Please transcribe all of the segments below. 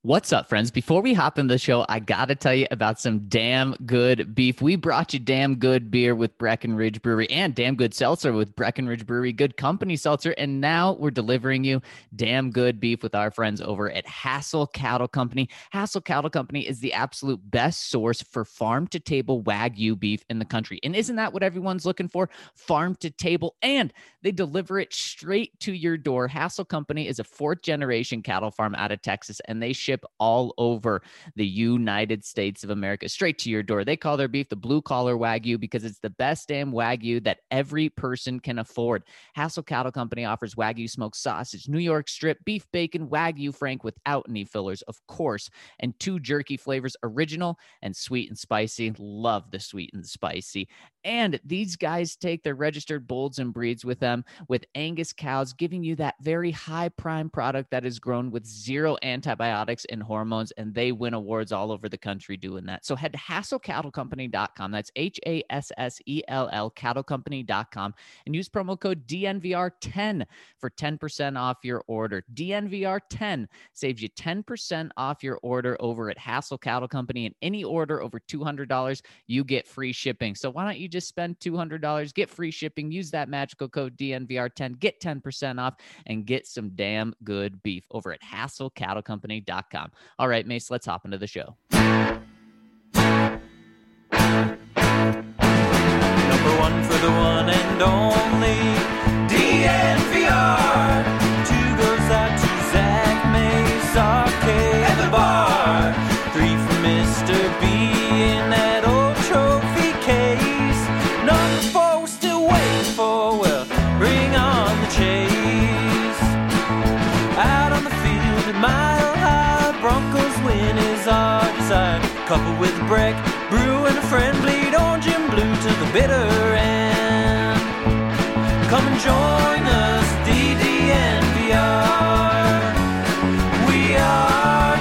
What's up, friends? Before we hop into the show, I got to tell you about some damn good beef. We brought you damn good beer with Breckenridge Brewery and damn good seltzer with Breckenridge Brewery, good company seltzer. And now we're delivering you damn good beef with our friends over at Hassel Cattle Company. Hassel Cattle Company is the absolute best source for farm to table Wagyu beef in the country. And isn't that what everyone's looking for? Farm to table. And they deliver it straight to your door. Hassel Company is a fourth generation cattle farm out of Texas, and they ship all over the United States of America, straight to your door. They call their beef the blue collar Wagyu because it's the best damn Wagyu that every person can afford. Hassel Cattle Company offers Wagyu smoked sausage, New York strip, beef bacon, Wagyu Frank without any fillers, of course, and two jerky flavors, original and sweet and spicy. Love the sweet and spicy. And these guys take their registered bulls and breeds with them with Angus cows, giving you that very high prime product that is grown with zero antibiotics and hormones. And they win awards all over the country doing that. So head to HassellCattleCompany.com. That's HASSELL cattlecompany.com and use promo code DNVR10 for 10% off your order. DNVR10 saves you 10% off your order over at Hassel Cattle Company. And any order over $200, you get free shipping. So why don't you just spend $200, get free shipping, use that magical code DNVR10, get 10% off, and get some damn good beef over at HassellCattleCompany.com. All right, Mace, let's hop into the show. Number one for the one and only DNVR. Two goes out to Zach Mace, Arcade at the bar. Three for Mr. B in that old trophy case. Number four we're still waiting for, well, bring on the chase. Out on the field at Mile High, Broncos win is our desire. Couple with Breck, Brew and a friend, bleed orange and blue to the bitter end. Come and join us, DDNVR. We are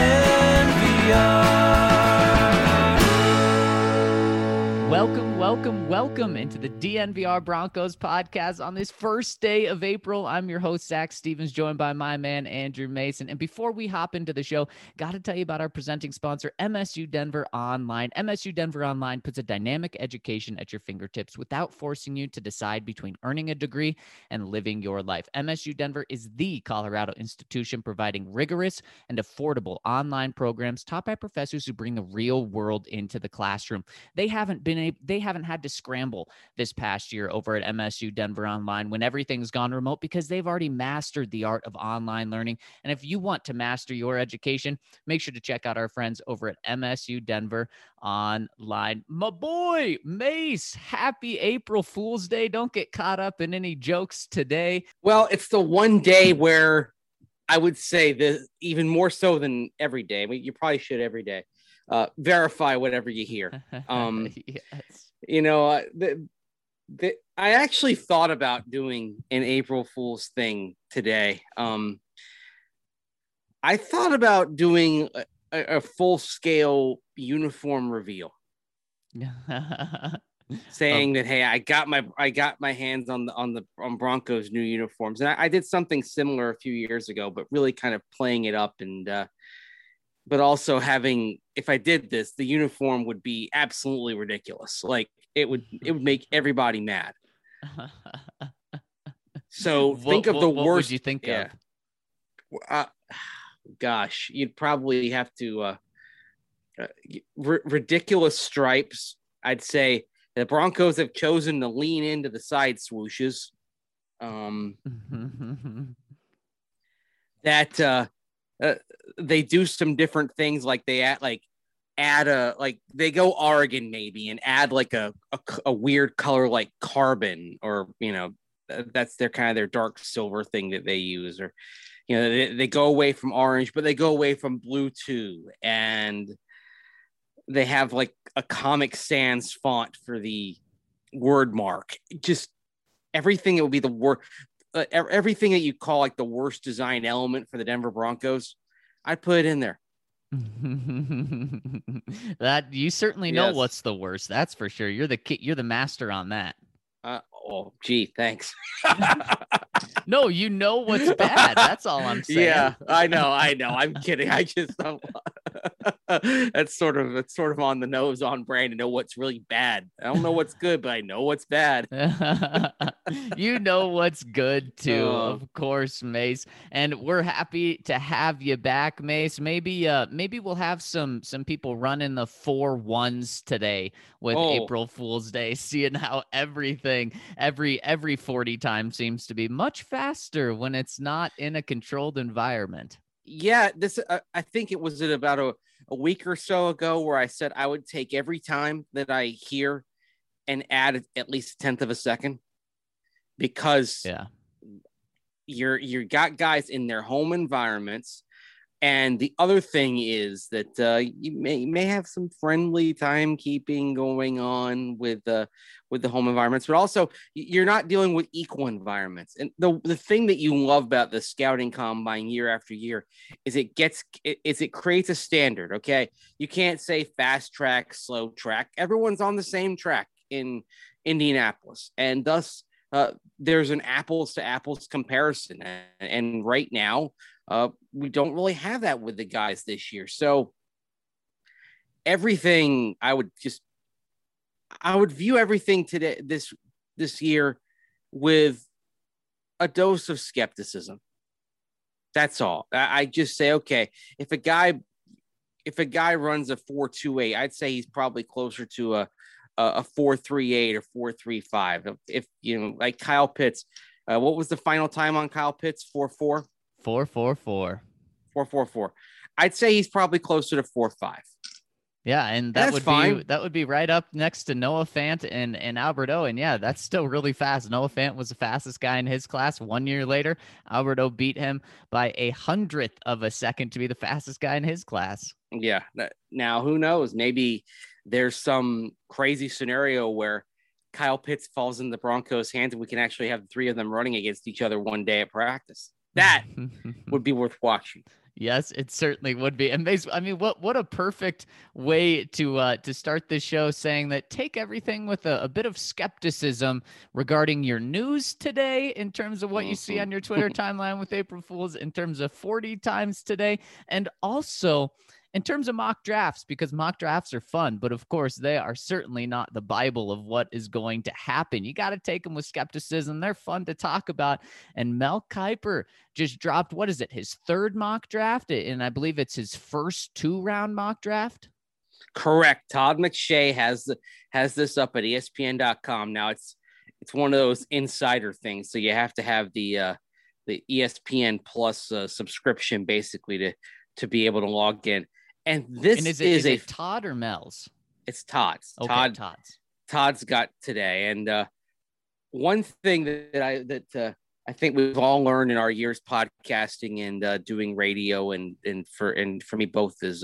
DNVR. Welcome into the DNVR Broncos podcast on this first day of April. I'm your host, Zach Stevens, joined by my man, Andrew Mason. And before we hop into the show, got to tell you about our presenting sponsor, MSU Denver Online. MSU Denver Online puts a dynamic education at your fingertips without forcing you to decide between earning a degree and living your life. MSU Denver is the Colorado institution providing rigorous and affordable online programs taught by professors who bring the real world into the classroom. They haven't had to scramble this past year over at MSU Denver Online when everything's gone remote because they've already mastered the art of online learning. And if you want to master your education, make sure to check out our friends over at MSU Denver Online. My boy, Mace, happy April Fool's Day. Don't get caught up in any jokes today. Well, it's the one day where I would say that even more so than every day. I mean, you probably should every day. Verify whatever you hear. Yes. You know, I actually thought about doing an April Fool's thing today. I thought about doing a full-scale uniform reveal, saying that, hey, I got my hands on Broncos new uniforms, and I did something similar a few years ago, but really kind of playing it up and. But also having, if I did this, the uniform would be absolutely ridiculous. Like it would make everybody mad. So think of the worst. What would you think of? Gosh, you'd probably have to ridiculous stripes. I'd say the Broncos have chosen to lean into the side swooshes. They do some different things, like they they go Oregon maybe and add like a weird color like carbon, or that's their dark silver thing that they use, or they go away from orange but they go away from blue too, and they have like a Comic Sans font for the word mark. Just everything that would be the worst. Everything that you call like the worst design element for the Denver Broncos, I put it in there. That you certainly know what's the worst. That's for sure. You're the master on that. Oh, gee, thanks. No, you know what's bad. That's all I'm saying. Yeah, I know. I'm kidding. I just don't. That's sort of on the nose, on brand to know what's really bad. I don't know what's good, but I know what's bad. You know what's good too, Oh. of course, Mace. And we're happy to have you back, Mace. Maybe we'll have some people running the 4-1s today with Oh. April Fool's Day, seeing how everything every 40 times seems to be much faster when it's not in a controlled environment. Yeah, this I think it was about a week or so ago where I said I would take every time that I hear and add at least a tenth of a second, because Yeah. you got guys in their home environments. And the other thing is that you may have some friendly timekeeping going on with the home environments, but also you're not dealing with equal environments. And the thing that you love about the scouting combine year after year is it creates a standard. Okay, you can't say fast track, slow track. Everyone's on the same track in Indianapolis, and thus there's an apples to apples comparison. And right now, we don't really have that with the guys this year. So everything I would view everything today, this year, with a dose of skepticism. That's all. I just say, okay, if a guy runs a 4.28, I'd say he's probably closer to a 4.38 or 4.35. If like Kyle Pitts, what was the final time on Kyle Pitts? 4.4? 4.44. 4.44. I'd say he's probably closer to 4.5. Yeah, and that would be right up next to Noah Fant and Albert O. And yeah, that's still really fast. Noah Fant was the fastest guy in his class. 1 year later, Albert O beat him by 100th of a second to be the fastest guy in his class. Yeah. Now, who knows? Maybe there's some crazy scenario where Kyle Pitts falls in the Broncos' hands and we can actually have the three of them running against each other one day at practice. That would be worth watching. Yes, it certainly would be. And I mean, what a perfect way to start this show, saying that take everything with a bit of skepticism regarding your news today in terms of what you see on your Twitter timeline with April Fools, in terms of 40 times today, and also in terms of mock drafts, because mock drafts are fun, but of course they are certainly not the Bible of what is going to happen. You got to take them with skepticism. They're fun to talk about. And Mel Kiper just dropped, what is it, his third mock draft? And I believe it's his first 2-round mock draft. Correct. Todd McShay has this up at ESPN.com. Now it's one of those insider things. So you have to have the ESPN Plus subscription basically to be able to log in. And this is it Todd or Mel's? It's Todd's. Okay, Todd's got today. And one thing that I think we've all learned in our years podcasting and doing radio and for me both is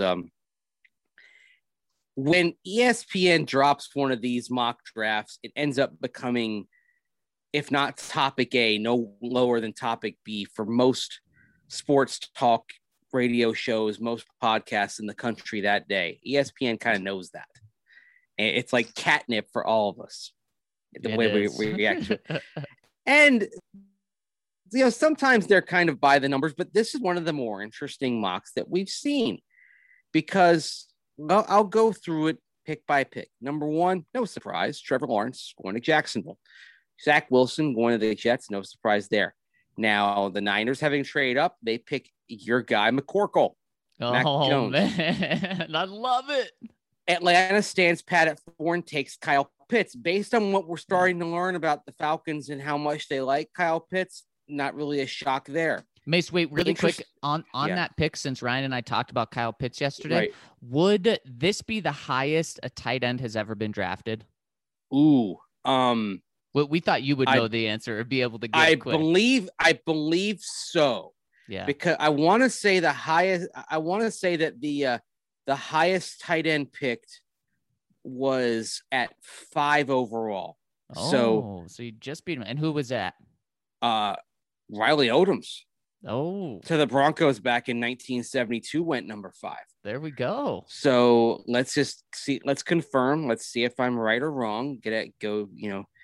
when ESPN drops one of these mock drafts, it ends up becoming, if not topic A, no lower than topic B for most sports talk radio shows, most podcasts in the country that day. ESPN kind of knows that. And it's like catnip for all of us, the way we react to it. And sometimes they're kind of by the numbers, but this is one of the more interesting mocks that we've seen, because I'll go through it pick by pick. Number one, no surprise, Trevor Lawrence going to Jacksonville. Zach Wilson going to the Jets, no surprise there. Now, the Niners having trade up, they pick your guy, McCorkle. Mac Jones. Man, I love it. Atlanta stands pat at 4 and takes Kyle Pitts. Based on what we're starting to learn about the Falcons and how much they like Kyle Pitts, not really a shock there. Mace, wait, really quick on that pick, since Ryan and I talked about Kyle Pitts yesterday, right. Would this be the highest a tight end has ever been drafted? Ooh, we thought you would know the answer or be able to get it quick. I believe so. Yeah. Because I want to say the highest. I want to say that the highest tight end picked was at 5 overall. Oh, so you just beat him. And who was that? Riley Odoms. Oh, to the Broncos back in 1972 went number 5. There we go. So let's just see. Let's confirm. Let's see if I'm right or wrong. Get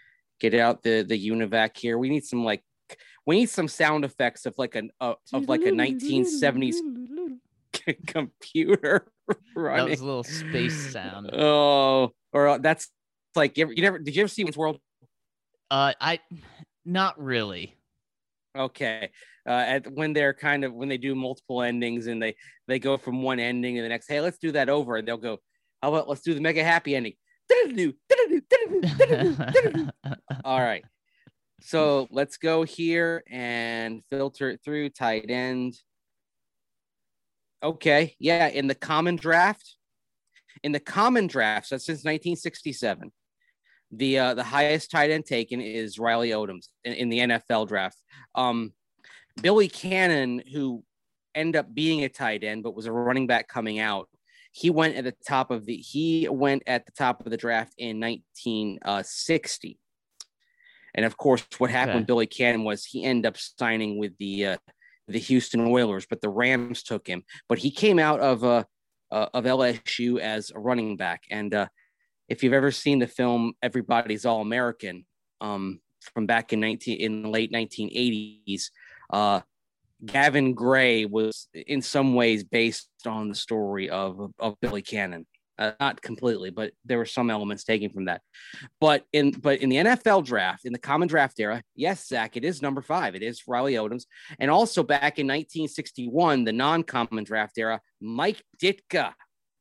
get out the UNIVAC here. We need some sound effects of like a 1970s computer running. That was a little space sound. Oh, or that's like did you ever see Wayne's World? I not really. Okay. When they do multiple endings and they go from one ending to the next, hey, let's do that over, and they'll go, how about let's do the mega happy ending. All right. So let's go here and filter it through tight end. Okay. Yeah. In the common draft, so since 1967, the highest tight end taken is Riley Odoms in the NFL draft. Billy Cannon, who ended up being a tight end, but was a running back coming out, he went at the top of the draft in 1960. And of course, what happened with Billy Cannon was he ended up signing with the Houston Oilers, but the Rams took him. But he came out of LSU as a running back. And if you've ever seen the film Everybody's All American, from back in the late 1980s, Gavin Gray was in some ways based on the story of Billy Cannon. Not completely, but there were some elements taken from that. But in the NFL draft, in the common draft era, yes, Zach, it is number 5. It is Riley Odoms. And also back in 1961, the non-common draft era, Mike Ditka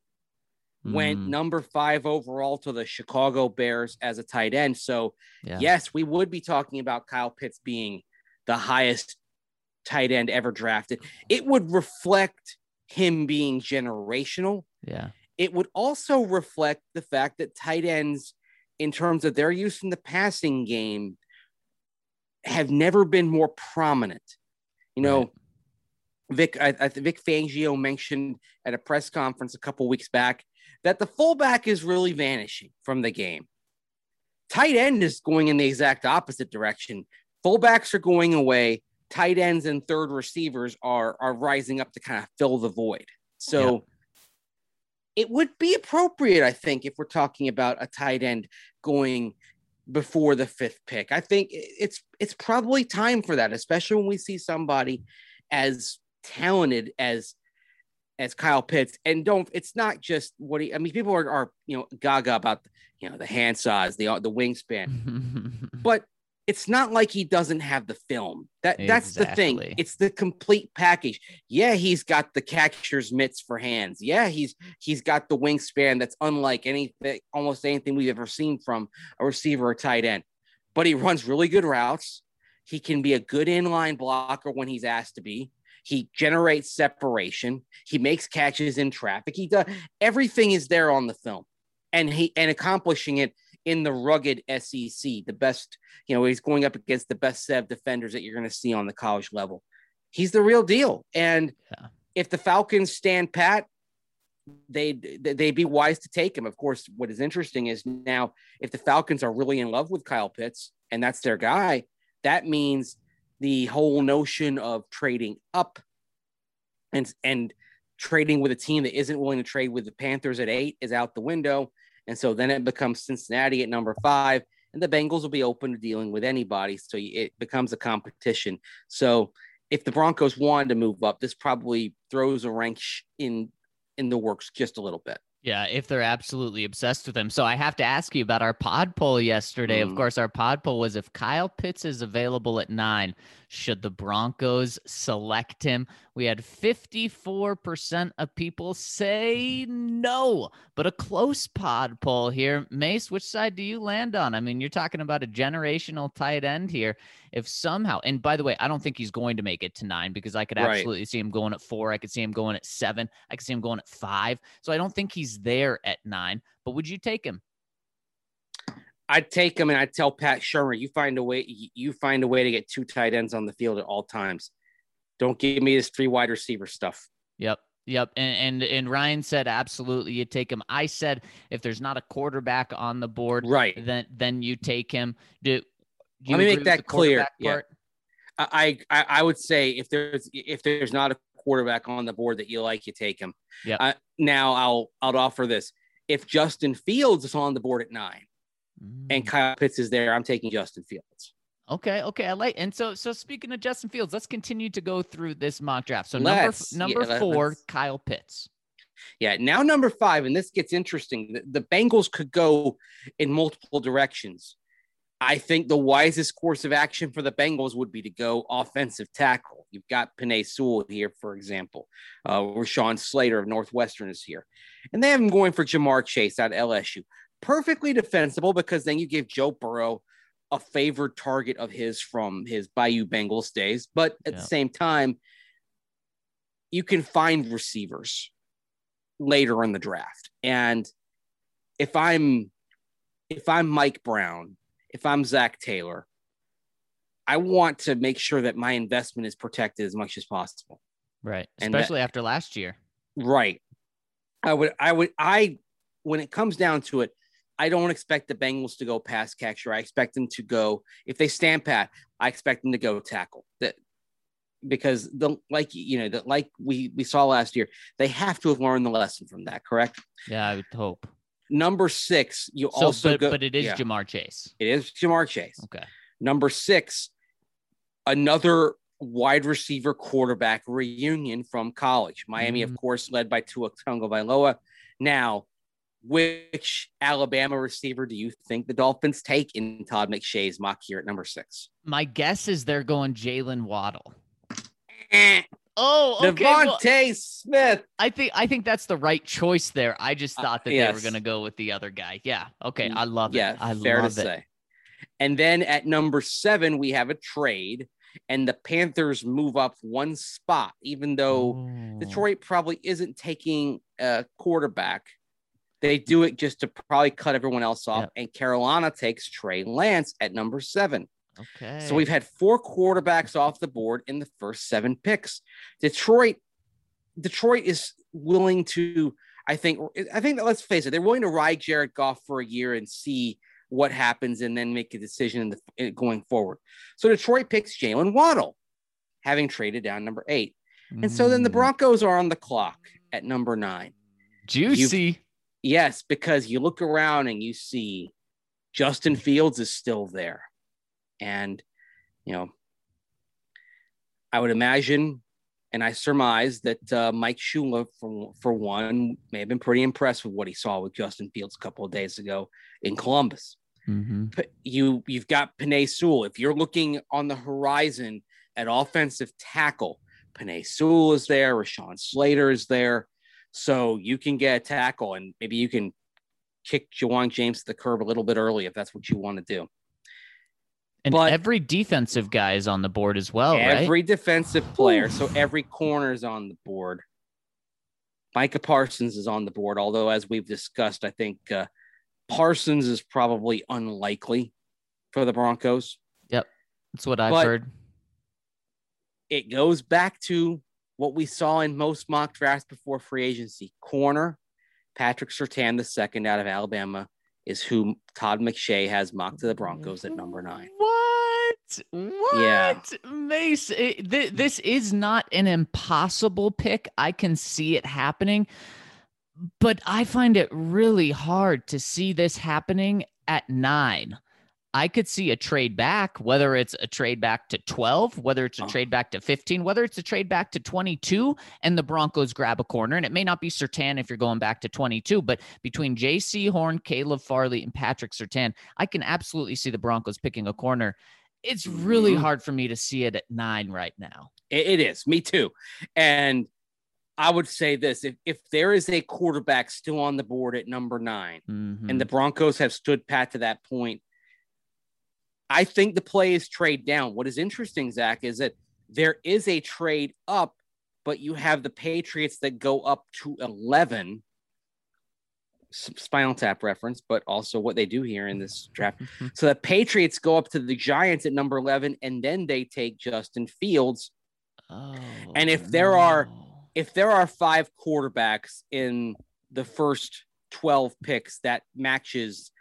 went number 5 overall to the Chicago Bears as a tight end. So yes, we would be talking about Kyle Pitts being the highest tight end ever drafted. It would reflect him being generational. Yeah. It would also reflect the fact that tight ends, in terms of their use in the passing game, have never been more prominent. You know, Vic Fangio mentioned at a press conference a couple weeks back that the fullback is really vanishing from the game. Tight end is going in the exact opposite direction. Fullbacks are going away. Tight ends and third receivers are rising up to kind of fill the void. So it would be appropriate, I think, if we're talking about a tight end going before the 5th pick. I think it's probably time for that, especially when we see somebody as talented as Kyle Pitts. And it's not just people are gaga about, the hand size, the wingspan, but it's not like he doesn't have the film. That's the thing. It's the complete package. Yeah, he's got the catcher's mitts for hands. Yeah, he's got the wingspan that's unlike almost anything we've ever seen from a receiver or tight end. But he runs really good routes. He can be a good inline blocker when he's asked to be. He generates separation. He makes catches in traffic. He does everything is there on the film, and accomplishing it in the rugged SEC, the best, he's going up against the best set of defenders that you're going to see on the college level. He's the real deal. And if the Falcons stand pat, they'd be wise to take him. Of course, what is interesting is now if the Falcons are really in love with Kyle Pitts and that's their guy, that means the whole notion of trading up and trading with a team that isn't willing to trade with the Panthers at 8 is out the window. And so then it becomes Cincinnati at number 5, and the Bengals will be open to dealing with anybody. So it becomes a competition. So if the Broncos wanted to move up, this probably throws a wrench in the works just a little bit. Yeah, if they're absolutely obsessed with him. So I have to ask you about our pod poll yesterday. Of course, our pod poll was if Kyle Pitts is available at 9, should the Broncos select him? We had 54% of people say no, but a close pod poll here. Mace, which side do you land on? I mean, you're talking about a generational tight end here. If somehow, and by the way, I don't think he's going to make it to 9 because I could absolutely see him going at 4. I could see him going at 7. I could see him going at 5. So I don't think he's there at 9, but would you take him? I'd take him, and I'd tell Pat Shurmur, you find a way to get 2 tight ends on the field at all times. Don't give me this 3 wide receiver stuff. Yep. And Ryan said, absolutely, you take him. I said, if there's not a quarterback on the board, then you take him. Let me make that clear. Yeah. I would say if there's not a quarterback on the board that you like, you take him. Yeah. Now I'll offer this. If Justin Fields is on the board at 9, and Kyle Pitts is there, I'm taking Justin Fields. Okay. I like. And so speaking of Justin Fields, let's continue to go through this mock draft. So number 4, Kyle Pitts. Yeah. Now number 5, and this gets interesting. The Bengals could go in multiple directions. I think the wisest course of action for the Bengals would be to go offensive tackle. You've got Penei Sewell here, for example. Rashawn Slater of Northwestern is here. And they have him going for Jamar Chase out of LSU. Perfectly defensible, because then you give Joe Burrow a favored target of his from his Bayou Bengals days. But at the same time, you can find receivers later in the draft. And if I'm Mike Brown, if I'm Zach Taylor, I want to make sure that my investment is protected as much as possible. Right. Especially after last year. Right. When it comes down to it, I don't expect the Bengals to go pass catcher. I expect them to go, if they stand pat, I expect them to go tackle. Because like we saw last year, they have to have learned the lesson from that, correct? Yeah, I would hope. Number 6, but it is Jamar Chase. It is Jamar Chase. Okay. Number 6, another wide receiver quarterback reunion from college. Miami, of course, led by Tua Tagovailoa. Now, which Alabama receiver do you think the Dolphins take in Todd McShay's mock here at number 6? My guess is they're going Jalen Waddle. Oh, okay. Devontae Smith. I think that's the right choice there. I just thought that they were going to go with the other guy. Yeah. Okay. I love it. Yeah, fair to say. And then at number 7, we have a trade, and the Panthers move up one spot, even though Detroit probably isn't taking a quarterback. They do it just to probably cut everyone else off. Yep. And Carolina takes Trey Lance at number 7. Okay. So we've had 4 quarterbacks off the board in the first 7 picks. Detroit is willing to, I think that, let's face it, they're willing to ride Jared Goff for a year and see what happens and then make a decision going forward. So Detroit picks Jalen Waddle, having traded down number 8. And so then the Broncos are on the clock at number 9. Juicy. Yes, because you look around and you see Justin Fields is still there. And, I would imagine, and I surmise that Mike Shula, for one, may have been pretty impressed with what he saw with Justin Fields a couple of days ago in Columbus. Mm-hmm. You've got Penei Sewell. If you're looking on the horizon at offensive tackle, Penei Sewell is there. Rashawn Slater is there. So you can get a tackle, and maybe you can kick Jawan James to the curb a little bit early if that's what you want to do. And every defensive guy is on the board as well, right? Every defensive player. So every corner is on the board. Micah Parsons is on the board, although as we've discussed, I think Parsons is probably unlikely for the Broncos. Yep. That's what I've heard. It goes back to what we saw in most mock drafts before free agency. Corner, Patrick Surtain II out of Alabama is who Todd McShay has mocked to the Broncos at number 9. What? Yeah. Mace, this is not an impossible pick. I can see it happening, but I find it really hard to see this happening at 9. I could see a trade back, whether it's a trade back to 12, whether it's a trade back to 15, whether it's a trade back to 22, and the Broncos grab a corner. And it may not be Surtain if you're going back to 22, but between J.C. Horn, Caleb Farley, and Patrick Surtain, I can absolutely see the Broncos picking a corner. It's really hard for me to see it at 9 right now. It is. Me too. And I would say this, if there is a quarterback still on the board at number 9, and the Broncos have stood pat to that point, I think the play is trade down. What is interesting, Zach, is that there is a trade up, but you have the Patriots that go up to 11. Spinal Tap reference, but also what they do here in this draft. So the Patriots go up to the Giants at number 11, and then they take Justin Fields. And if there are 5 quarterbacks in the first 12 picks, that matches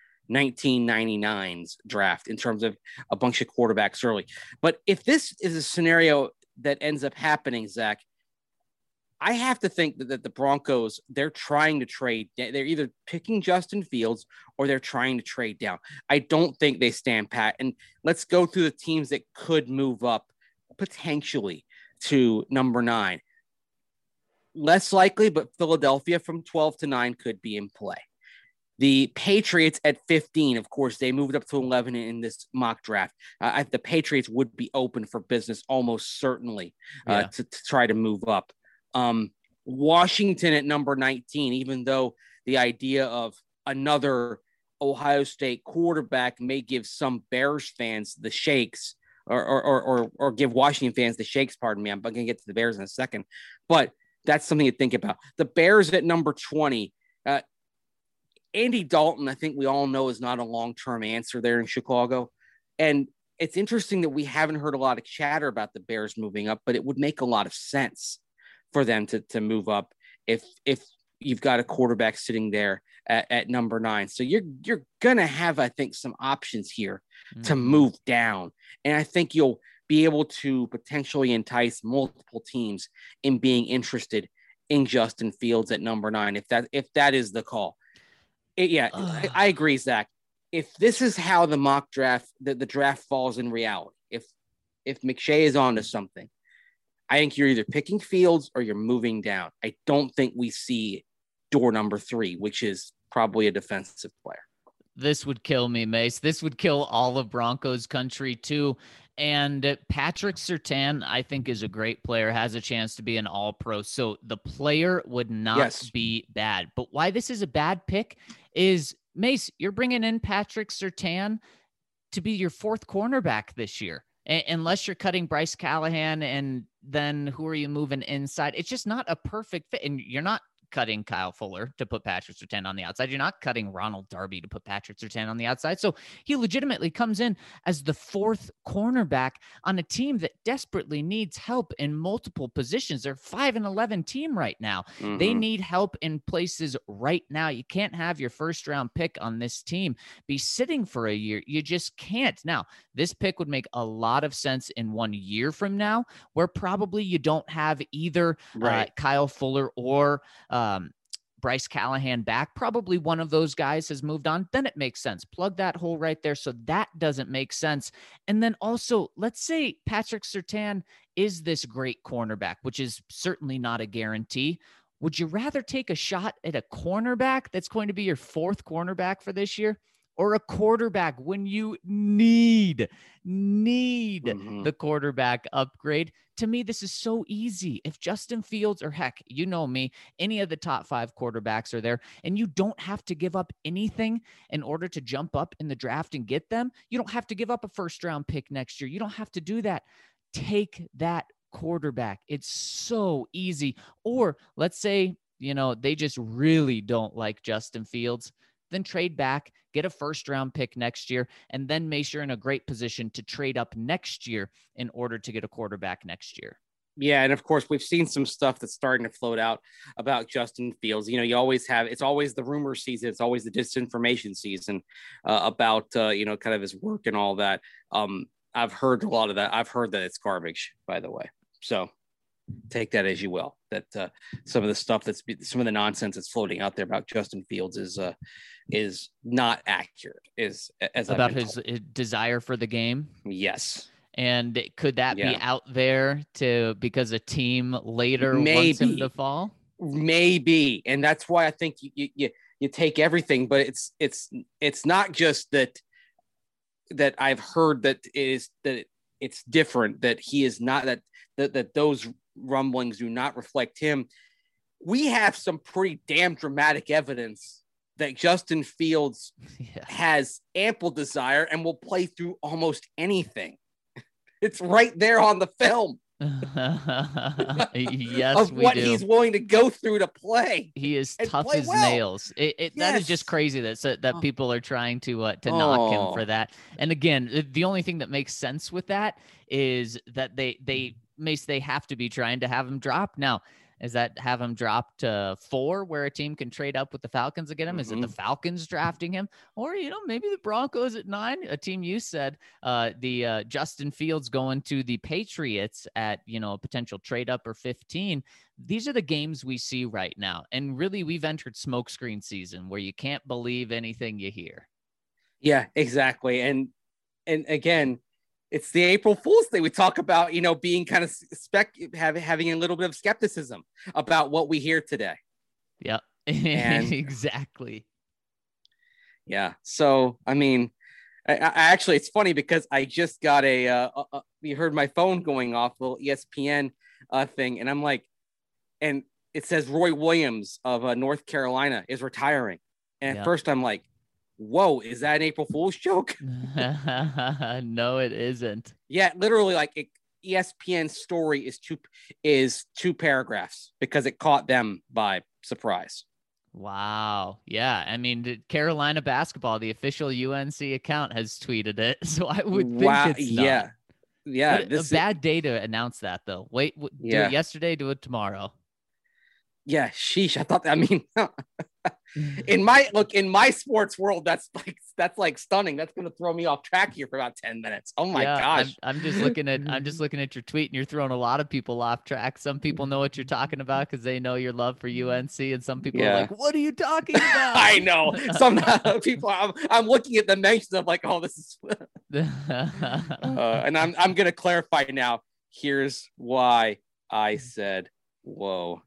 1999's draft in terms of a bunch of quarterbacks early. But if this is a scenario that ends up happening, Zach, I have to think that the Broncos, they're trying to trade. They're either picking Justin Fields or they're trying to trade down. I don't think they stand pat. And let's go through the teams that could move up potentially to number 9. Less likely, but Philadelphia from 12 to 9 could be in play. The Patriots at 15, of course, they moved up to 11 in this mock draft. The Patriots would be open for business almost certainly to try to move up. Washington at number 19, even though the idea of another Ohio State quarterback may give some Bears fans the shakes or give Washington fans the shakes, pardon me. I'm going to get to the Bears in a second, but that's something to think about. The Bears at number 20, Andy Dalton, I think we all know, is not a long-term answer there in Chicago. And it's interesting that we haven't heard a lot of chatter about the Bears moving up, but it would make a lot of sense for them to move up if you've got a quarterback sitting there at number 9. So you're going to have, I think, some options here to move down. And I think you'll be able to potentially entice multiple teams in being interested in Justin Fields at number 9, if that is the call. I agree, Zach. If this is how the mock draft, the draft falls in reality, if McShay is onto something, I think you're either picking Fields or you're moving down. I don't think we see door number 3, which is probably a defensive player. This would kill me, Mace. This would kill all of Broncos country too. And Patrick Surtain, I think, is a great player, has a chance to be an all-pro. So the player would not be bad. But why this is a bad pick is, Mace, you're bringing in Patrick Surtain to be your 4th cornerback this year. Unless you're cutting Bryce Callahan, and then who are you moving inside? It's just not a perfect fit. And you're not cutting Kyle Fuller to put Patrick Surtain on the outside. You're not cutting Ronald Darby to put Patrick Surtain on the outside. So he legitimately comes in as the 4th cornerback on a team that desperately needs help in multiple positions. They're 5-11 team right now. They need help in places right now. You can't have your 1st round pick on this team be sitting for a year. You just can't. Now, this pick would make a lot of sense in 1 year from now, where probably you don't have either Kyle Fuller or Bryce Callahan back. Probably one of those guys has moved on. Then it makes sense. Plug that hole right there. So that doesn't make sense. And then also, let's say Patrick Surtain is this great cornerback, which is certainly not a guarantee. Would you rather take a shot at a cornerback that's going to be your 4th cornerback for this year, or a quarterback when you need the quarterback upgrade? To me, this is so easy. If Justin Fields, or heck, you know me, any of the top 5 quarterbacks are there, and you don't have to give up anything in order to jump up in the draft and get them. You don't have to give up a 1st round pick next year. You don't have to do that. Take that quarterback. It's so easy. Or let's say, they just really don't like Justin Fields. Then trade back, get a 1st round pick next year, and then make sure you're in a great position to trade up next year in order to get a quarterback next year. Yeah, and of course, we've seen some stuff that's starting to float out about Justin Fields. You always have, it's always the rumor season. It's always the disinformation season about, kind of his work and all that. I've heard a lot of that. I've heard that it's garbage, by the way. So take that as you will, that some of the stuff some of the nonsense that's floating out there about Justin Fields is not accurate, as about his desire for the game. Yes. And could that be out there because a team later wants him to fall? Maybe. And that's why I think you take everything, but it's not just that I've heard that it's different, that he is not, that those rumblings do not reflect him. We have some pretty damn dramatic evidence that Justin Fields has ample desire and will play through almost anything. It's right there on the film. Yes, of what he's willing to go through to play. He is tough as nails. That is just crazy that people are trying to knock him for that. And again, the only thing that makes sense with that is that they have to be trying to have him drop. Now, Is that have him drop to 4 where a team can trade up with the Falcons to get him? Is it the Falcons drafting him? Or, maybe the Broncos at 9, a team you said, the Justin Fields going to the Patriots at, a potential trade up or 15. These are the games we see right now. And really, we've entered smokescreen season where you can't believe anything you hear. Yeah, exactly. And again, it's the April Fool's Day. We talk about, being kind of having a little bit of skepticism about what we hear today. Yeah, exactly. Yeah. So, I mean, I actually, it's funny because I just got you heard my phone going off, little ESPN thing. And I'm like, and it says Roy Williams of North Carolina is retiring. And at first I'm like, whoa, is that an April Fool's joke? No, it isn't. Yeah, literally, like ESPN story is two paragraphs because it caught them by surprise. Wow. Yeah. I mean, Carolina basketball, the official UNC account, has tweeted it. So I would think it's not. Yeah. Yeah. A bad day to announce that, though. Wait, do it yesterday, do it tomorrow. Yeah, sheesh. I thought that, I mean, in my sports world, that's like stunning. That's going to throw me off track here for about 10 minutes. Oh my gosh. I'm just looking at your tweet, and you're throwing a lot of people off track. Some people know what you're talking about because they know your love for UNC, and some people are like, what are you talking about? I know. Some people, I'm looking at the mentions of like, oh, this is, and I'm going to clarify now. Here's why I said, whoa.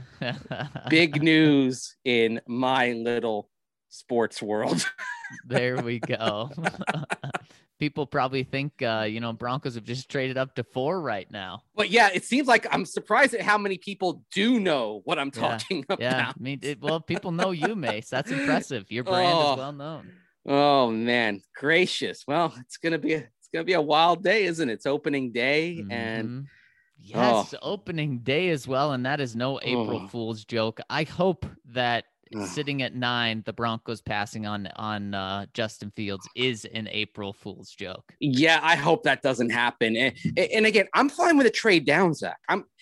Big news in my little sports world. There we go. People probably think, Broncos have just traded up to 4 right now. But yeah, it seems like I'm surprised at how many people do know what I'm talking about. Yeah, I mean, people know you, Mace. That's impressive. Your brand is well known. Oh man, gracious. Well, it's gonna be a wild day, isn't it? It's opening day, and yes, opening day as well, and that is no April Fool's joke. I hope that sitting at 9, the Broncos passing on Justin Fields is an April Fool's joke. Yeah, I hope that doesn't happen. And again, I'm fine with a trade down, Zach.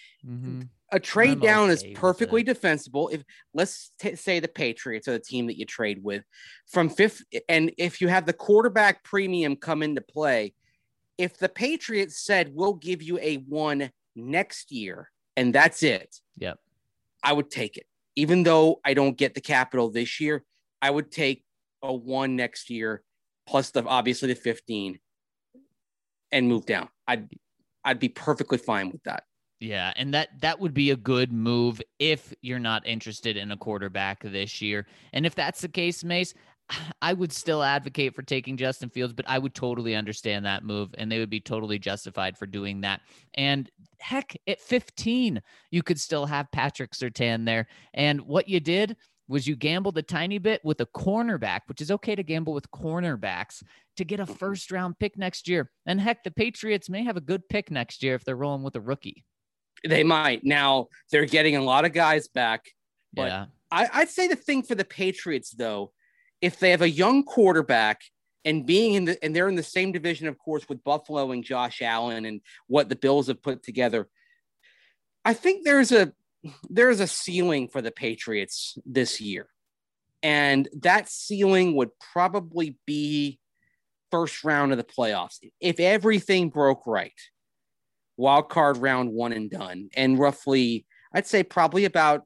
A trade down is perfectly defensible. If let's say the Patriots are the team that you trade with from 5th, and if you have the quarterback premium come into play, if the Patriots said we'll give you a 1 next year and that's it, yep, I would take it. Even though I don't get the capital this year, I would take a 1 next year plus obviously the 15 and move down. I'd be perfectly fine with that. Yeah, and that would be a good move if you're not interested in a quarterback this year. And if that's the case, Mace, I would still advocate for taking Justin Fields, but I would totally understand that move, and they would be totally justified for doing that. And heck, at 15, you could still have Patrick Surtain there. And what you did was you gambled a tiny bit with a cornerback, which is okay to gamble with cornerbacks, to get a first-round pick next year. And heck, the Patriots may have a good pick next year if they're rolling with a rookie. They might. Now, they're getting a lot of guys back. But yeah. I'd say the thing for the Patriots, though, if they have a young quarterback and they're in the same division, of course, with Buffalo and Josh Allen and what the Bills have put together, I think there's a ceiling for the Patriots this year. And that ceiling would probably be first round of the playoffs. If everything broke right, wild card round 1 and done, and roughly, I'd say probably about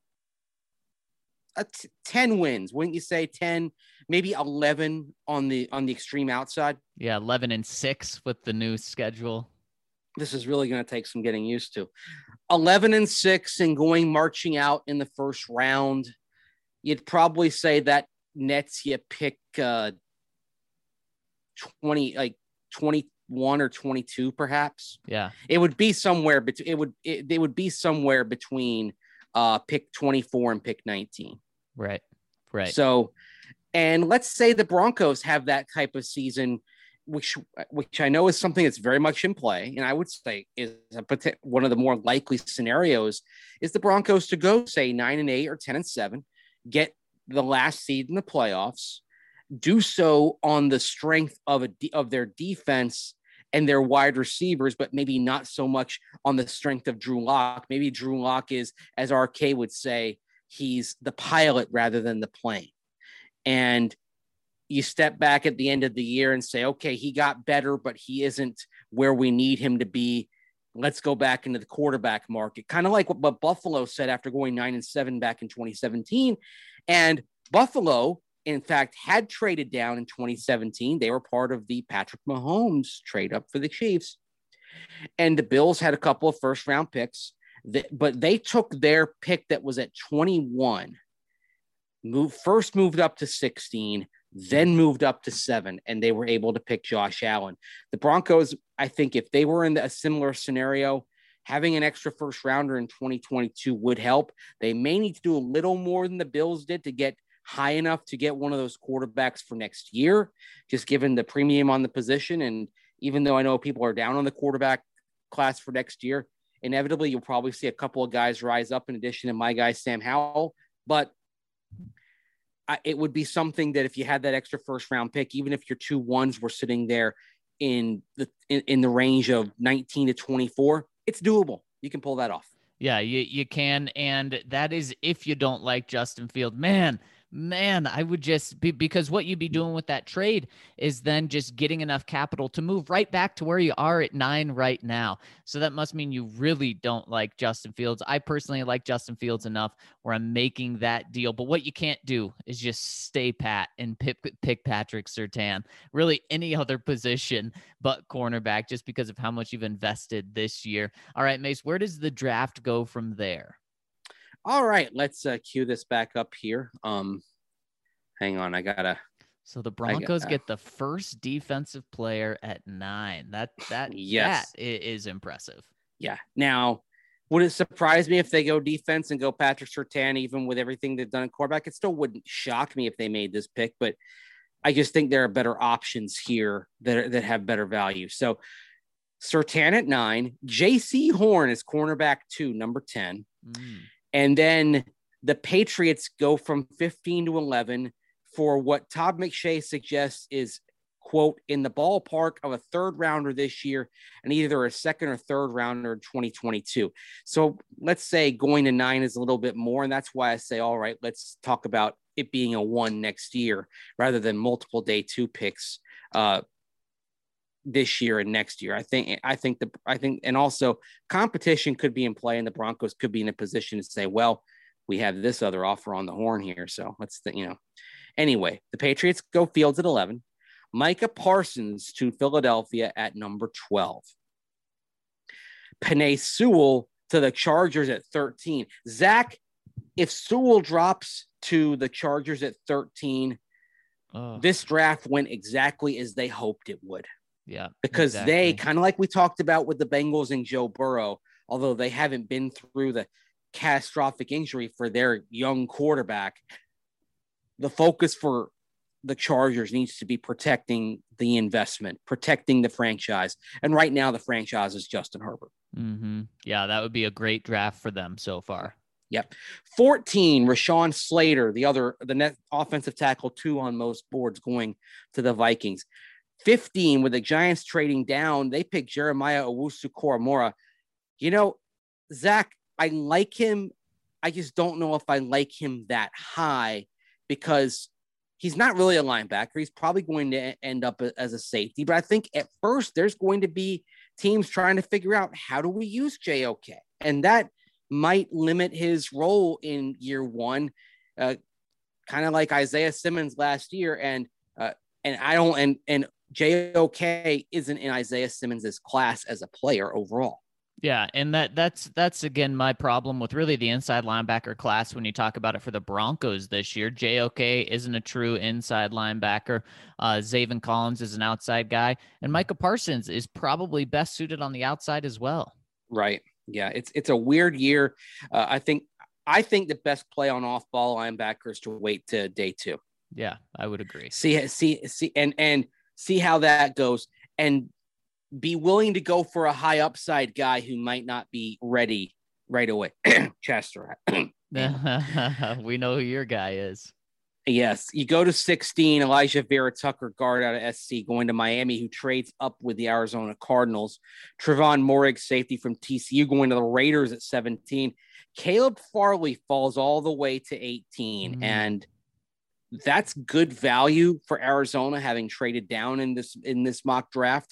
10 wins. Wouldn't you say 10, maybe 11 on the extreme outside? Yeah, 11-6 with the new schedule. This is really going to take some getting used to. 11-6 and marching out in the first round. You'd probably say that nets you pick 21 or 22, perhaps. Yeah, it would be somewhere between. They would be somewhere between pick 24 and pick 19. Right. So, and let's say the Broncos have that type of season, which I know is something that's very much in play, and I would say is one of the more likely scenarios is the Broncos to go say 9-8 or 10-7, get the last seed in the playoffs, do so on the strength of their defense and their wide receivers, but maybe not so much on the strength of Drew Lock. Maybe Drew Lock is, as RK would say, he's the pilot rather than the plane. And you step back at the end of the year and say, okay, he got better, but he isn't where we need him to be. Let's go back into the quarterback market. Kind of like what Buffalo said after going 9-7 back in 2017. And Buffalo, in fact, had traded down in 2017. They were part of the Patrick Mahomes trade up for the Chiefs. And the Bills had a couple of first round picks, but they took their pick that was at 21, moved up to 16, then moved up to 7, and they were able to pick Josh Allen. The Broncos, I think if they were in a similar scenario, having an extra first rounder in 2022 would help. They may need to do a little more than the Bills did to get high enough to get one of those quarterbacks for next year, just given the premium on the position. And even though I know people are down on the quarterback class for next year, inevitably you'll probably see a couple of guys rise up in addition to my guy, Sam Howell. But it would be something that if you had that extra first round pick, even if your 2 1s were sitting there in the range of 19 to 24, it's doable. You can pull that off. Yeah, you can. And that is if you don't like Justin Fields. Man, I would just be, because what you'd be doing with that trade is then just getting enough capital to move right back to where you are at 9 right now. So that must mean you really don't like Justin Fields. I personally like Justin Fields enough where I'm making that deal. But what you can't do is just stay pat and pick Patrick Surtain, really any other position but cornerback, just because of how much you've invested this year. All right, Mace, where does the draft go from there? All right, let's cue this back up here. Hang on, I gotta. So the Broncos get the first defensive player at 9. That yes. That is impressive. Yeah. Now, would it surprise me if they go defense and go Patrick Surtain, even with everything they've done at quarterback? It still wouldn't shock me if they made this pick, but I just think there are better options here that have better value. So Surtain at 9, J.C. Horn is cornerback 2, number 10. And then the Patriots go from 15 to 11 for what Todd McShay suggests is, quote, in the ballpark of a 3rd rounder this year and either a 2nd or 3rd rounder in 2022. So let's say going to 9 is a little bit more. And that's why I say, all right, let's talk about it being a 1 next year rather than multiple day 2 picks this year and next year. I think, and also competition could be in play and the Broncos could be in a position to say, well, we have this other offer on the horn here. So let's, anyway, the Patriots go Fields at 11, Micah Parsons to Philadelphia at number 12, Penei Sewell to the Chargers at 13. Zach, if Sewell drops to the Chargers at 13, this draft went exactly as they hoped it would. Yeah, because they kind of like we talked about with the Bengals and Joe Burrow, although they haven't been through the catastrophic injury for their young quarterback, the focus for the Chargers needs to be protecting the investment, protecting the franchise. And right now the franchise is Justin Herbert. Mm-hmm. Yeah, that would be a great draft for them so far. Yep. 14, Rashawn Slater, the net offensive tackle 2 on most boards, going to the Vikings. 15, with the Giants trading down, they picked Jeremiah Owusu-Koramoah. Zach, I like him. I just don't know if I like him that high because he's not really a linebacker. He's probably going to end up as a safety. But I think at first there's going to be teams trying to figure out how do we use JOK. And that might limit his role in year 1, kind of like Isaiah Simmons last year. And JOK isn't in Isaiah Simmons' class as a player overall. Yeah, and that's again my problem with really the inside linebacker class when you talk about it for the Broncos this year. JOK isn't a true inside linebacker. Zaven Collins is an outside guy, and Micah Parsons is probably best suited on the outside as well. Right. Yeah, it's a weird year. I think the best play on off-ball linebacker is to wait to day 2. Yeah, I would agree. See how that goes, and be willing to go for a high upside guy who might not be ready right away. Chester. We know who your guy is. Yes, you go to 16, Elijah Vera Tucker, guard out of SC, going to Miami, who trades up with the Arizona Cardinals. Trevon Morig, safety from TCU, going to the Raiders at 17. Caleb Farley falls all the way to 18, and that's good value for Arizona, having traded down in this mock draft.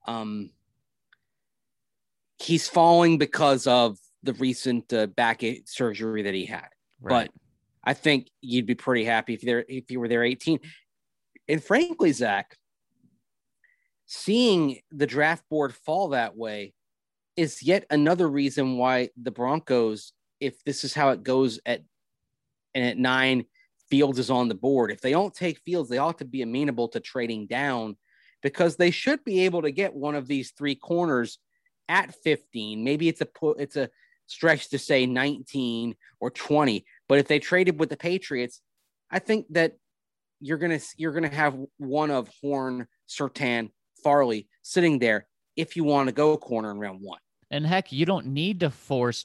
He's falling because of the recent back surgery that he had, Right. but I think you'd be pretty happy if you were there 18. And frankly, Zach, seeing the draft board fall that way is yet another reason why the Broncos, if this is how it goes at 9, Fields is on the board. If they don't take Fields, they ought to be amenable to trading down, because they should be able to get one of these 3 corners at 15. Maybe it's a stretch to say 19 or 20. But if they traded with the Patriots, I think that you're gonna have one of Horn, Surtain, Farley sitting there if you want to go corner in round 1. And heck, you don't need to force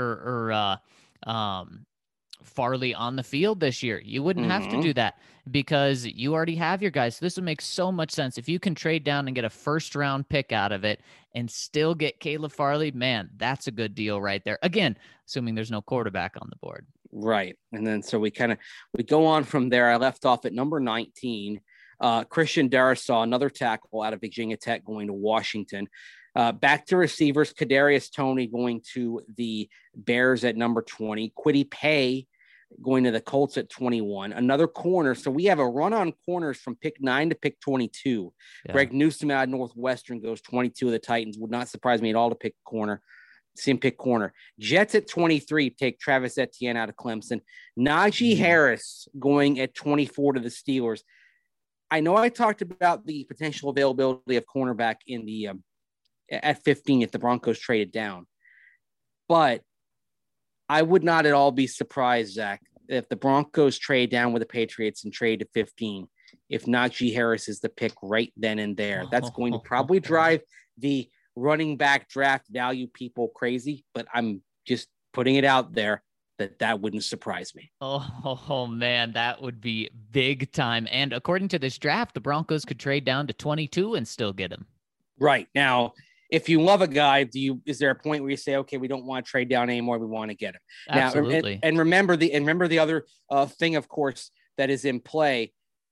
Farley on the field this year. You wouldn't have to do that because you already have your guys. So this would make so much sense. If you can trade down and get a first-round pick out of it and still get Caleb Farley, man, that's a good deal right there. Again, assuming there's no quarterback on the board. Right. And then so we go on from there. I left off at number 19. Christian Darrisaw, another tackle out of Virginia Tech, going to Washington. Back to receivers, Kadarius Toney going to the Bears at number 20. Kwity Paye going to the Colts at 21. Another corner. So we have a run on corners from pick 9 to pick 22. Yeah. Greg Newsome out of Northwestern goes 22 of the Titans. Would not surprise me at all to pick corner. See him pick corner. Jets at 23 take Travis Etienne out of Clemson. Najee Harris going at 24 to the Steelers. I know I talked about the potential availability of cornerback in the at 15 if the Broncos traded down, but I would not at all be surprised, Zach, if the Broncos trade down with the Patriots and trade to 15, if Najee Harris is the pick right then and there. That's going to probably drive the running back draft value people crazy, but I'm just putting it out there that wouldn't surprise me. Oh man, that would be big time. And according to this draft, the Broncos could trade down to 22 and still get him. Right. Now, if you love a guy, is there a point where you say, okay, we don't want to trade down anymore, we want to get him? Absolutely. Now, and remember the other thing, of course, that is in play.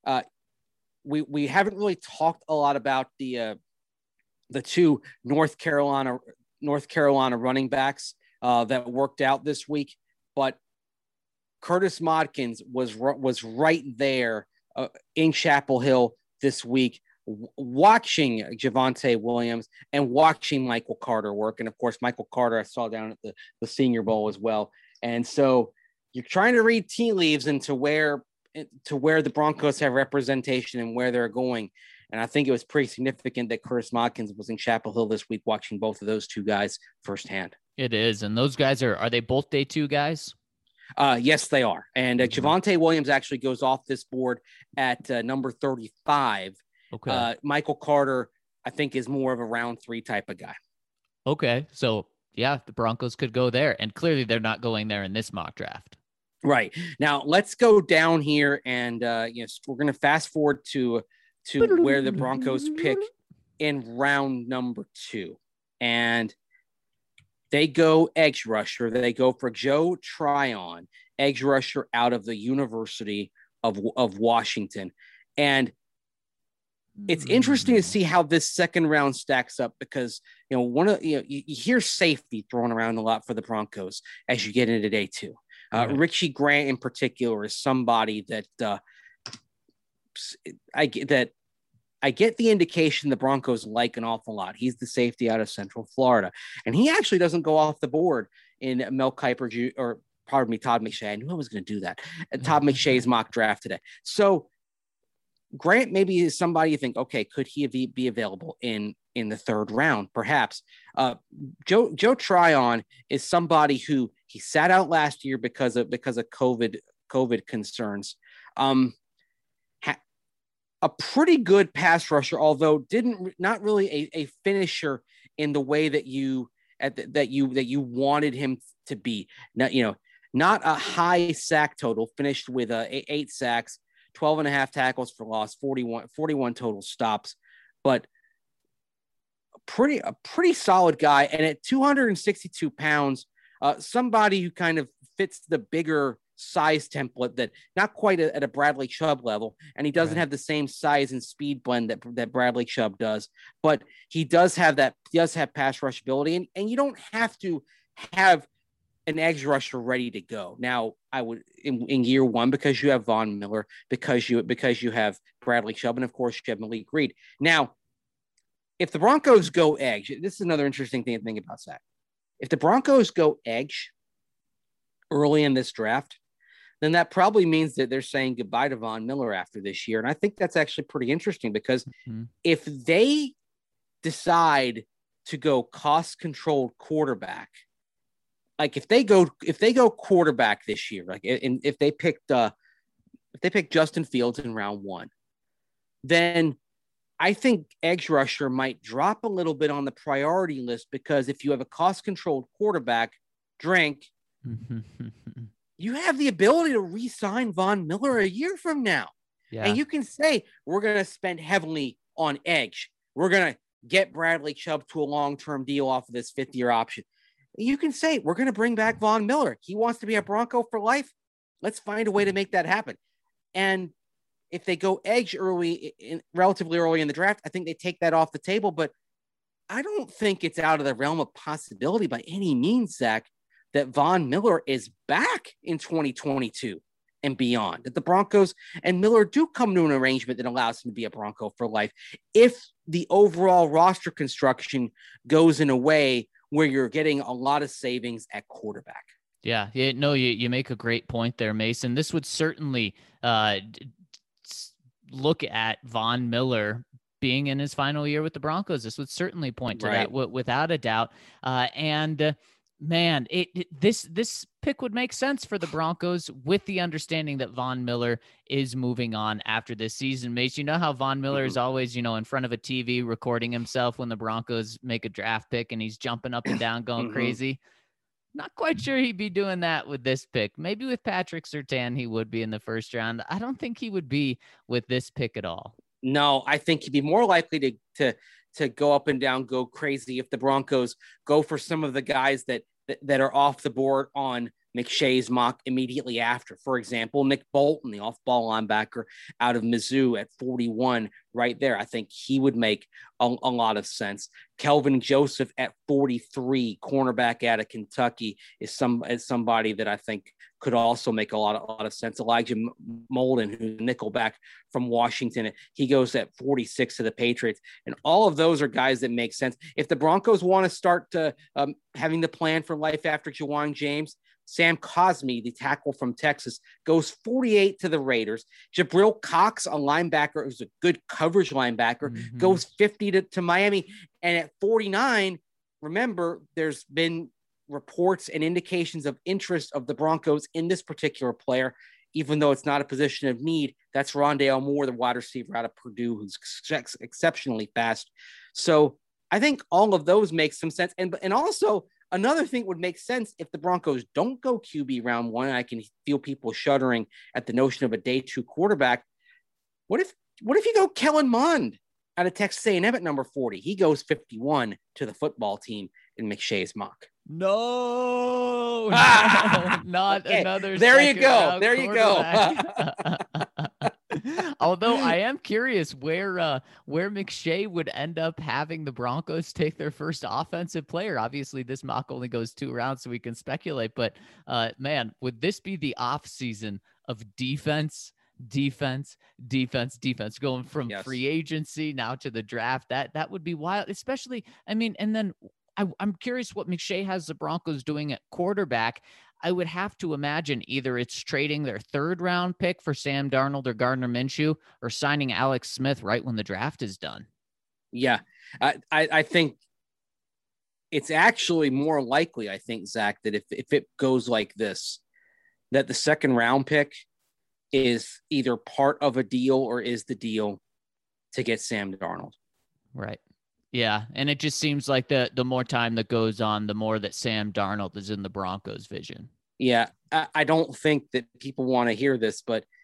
We haven't really talked a lot about the 2 North Carolina running backs that worked out this week, but Curtis Modkins was right there in Chapel Hill this week, watching Javonte Williams and watching Michael Carter work. And of course, Michael Carter I saw down at the Senior Bowl as well. And so you're trying to read tea leaves into where the Broncos have representation and where they're going. And I think it was pretty significant that Curtis Modkins was in Chapel Hill this week, watching both of those 2 guys firsthand. It is. And those guys are they both day 2 guys? Yes, they are. And Javonte Williams actually goes off this board at number 35. Okay. Michael Carter, I think, is more of a round 3 type of guy. Okay. So yeah, the Broncos could go there, and clearly they're not going there in this mock draft. Right. Now let's go down here and we're going to fast forward to where the Broncos pick in round number 2. And they go edge rusher. They go for Joe Tryon, edge rusher out of the University of Washington. And it's interesting to see how this second round stacks up, because you hear safety thrown around a lot for the Broncos as you get into day 2. Richie Grant in particular is somebody that I get the indication the Broncos like an awful lot. He's the safety out of Central Florida, and he actually doesn't go off the board in Mel Kiper Todd McShay. I knew I was going to do that. Todd McShay's mock draft today. So Grant maybe is somebody you think, okay, could he be available in the 3rd round? Perhaps. Joe Tryon is somebody who he sat out last year because of COVID concerns. A pretty good pass rusher, although not really a finisher in the way that you wanted him to be. Not a high sack total, finished with 8 sacks. 12 and a half tackles for loss, 41 total stops, but a pretty solid guy. And at 262 pounds, somebody who kind of fits the bigger size template that not quite at a Bradley Chubb level. And he doesn't have the same size and speed blend that Bradley Chubb does, but he does have pass rush ability. And you don't have to have an edge rusher ready to go. Now, I would in year one, because you have Von Miller, because you have Bradley Chubb, and of course you have Malik Reed. Now, if the Broncos go edge, this is another interesting thing to think about, Zach. If the Broncos go edge early in this draft, then that probably means that they're saying goodbye to Von Miller after this year. And I think that's actually pretty interesting, because if they decide to go cost-controlled quarterback, like if they go quarterback this year, like if they picked Justin Fields in round one, then I think edge rusher might drop a little bit on the priority list, because if you have a cost-controlled quarterback, you have the ability to re-sign Von Miller a year from now. Yeah. And you can say, we're going to spend heavily on edge. We're going to get Bradley Chubb to a long-term deal off of this fifth-year option. You can say, we're going to bring back Von Miller. He wants to be a Bronco for life. Let's find a way to make that happen. And if they go edge relatively early in the draft, I think they take that off the table. But I don't think it's out of the realm of possibility by any means, Zach, that Von Miller is back in 2022 and beyond, that the Broncos and Miller do come to an arrangement that allows him to be a Bronco for life, if the overall roster construction goes in a way where you're getting a lot of savings at quarterback. Yeah. You make a great point there, Mason. This would certainly look at Von Miller being in his final year with the Broncos. This would certainly point to that without a doubt. Man, this pick would make sense for the Broncos, with the understanding that Von Miller is moving on after this season. Mace, you know how Von Miller is always, in front of a TV recording himself when the Broncos make a draft pick, and he's jumping up and down going crazy. Not quite sure he'd be doing that with this pick. Maybe with Patrick Surtain, he would be in the first round. I don't think he would be with this pick at all. No, I think he'd be more likely to go up and down, go crazy if the Broncos go for some of the guys that are off the board on McShay's mock immediately after. For example, Nick Bolton, the off-ball linebacker out of Mizzou at 41 right there. I think he would make a lot of sense. Kelvin Joseph at 43, cornerback out of Kentucky, is somebody that I think could also make a lot of sense. Elijah Molden, who's nickelback from Washington, he goes at 46 to the Patriots. And all of those are guys that make sense. If the Broncos want to start having the plan for life after Jawan James, Sam Cosmi, the tackle from Texas, goes 48 to the Raiders. Jabril Cox, a linebacker who's a good coverage linebacker, goes 50 to Miami. And at 49, remember, there's been reports and indications of interest of the Broncos in this particular player, even though it's not a position of need. That's Rondale Moore, the wide receiver out of Purdue, who's exceptionally fast. So I think all of those make some sense. And also, another thing would make sense if the Broncos don't go QB round one. I can feel people shuddering at the notion of a day two quarterback. What if you go Kellen Mond out of Texas A&M at number 40? He goes 51 to the football team in McShay's mock. No, not okay. Another. There you go. There you go. Although I am curious where McShay would end up having the Broncos take their first offensive player. Obviously, this mock only goes 2 rounds, so we can speculate. But man, would this be the off season of defense, going from free agency now to the draft? That would be wild, especially. I mean, and then I'm curious what McShay has the Broncos doing at quarterback. I would have to imagine either it's trading their 3rd round pick for Sam Darnold or Gardner Minshew, or signing Alex Smith right when the draft is done. Yeah, I think it's actually more likely, I think, Zach, that if it goes like this, that the 2nd round pick is either part of a deal or is the deal to get Sam Darnold. Right. Yeah, and it just seems like the more time that goes on, the more that Sam Darnold is in the Broncos' vision. Yeah, I don't think that people want to hear this, but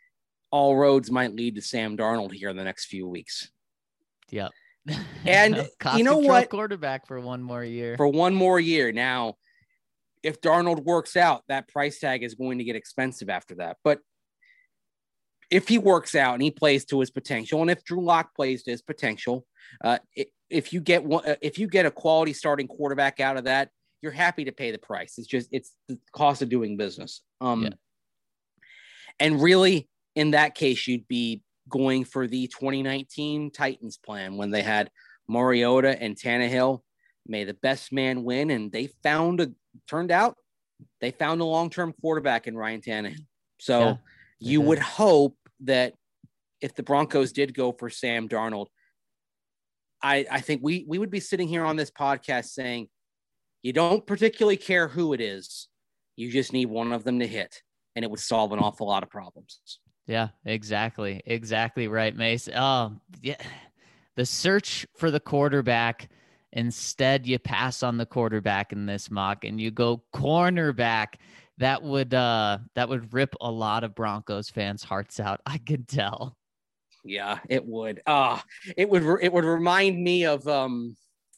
all roads might lead to Sam Darnold here in the next few weeks. Yep. And cost you know control what? Quarterback for one more year. For one more year. Now, if Darnold works out, that price tag is going to get expensive after that. But if he works out and he plays to his potential, and if Drew Lock plays to his potential, if you get a quality starting quarterback out of that, you're happy to pay the price. It's the cost of doing business. And really, in that case, you'd be going for the 2019 Titans plan when they had Mariota and Tannehill. May the best man win, and they found a long-term quarterback in Ryan Tannehill. So you would hope that if the Broncos did go for Sam Darnold, I think we would be sitting here on this podcast saying, you don't particularly care who it is. You just need one of them to hit, and it would solve an awful lot of problems. Yeah, exactly. Exactly right, Mace. Oh, yeah. The search for the quarterback. Instead, you pass on the quarterback in this mock and you go cornerback. That would rip a lot of Broncos fans' hearts out. I could tell. Yeah, it would. It would remind me of the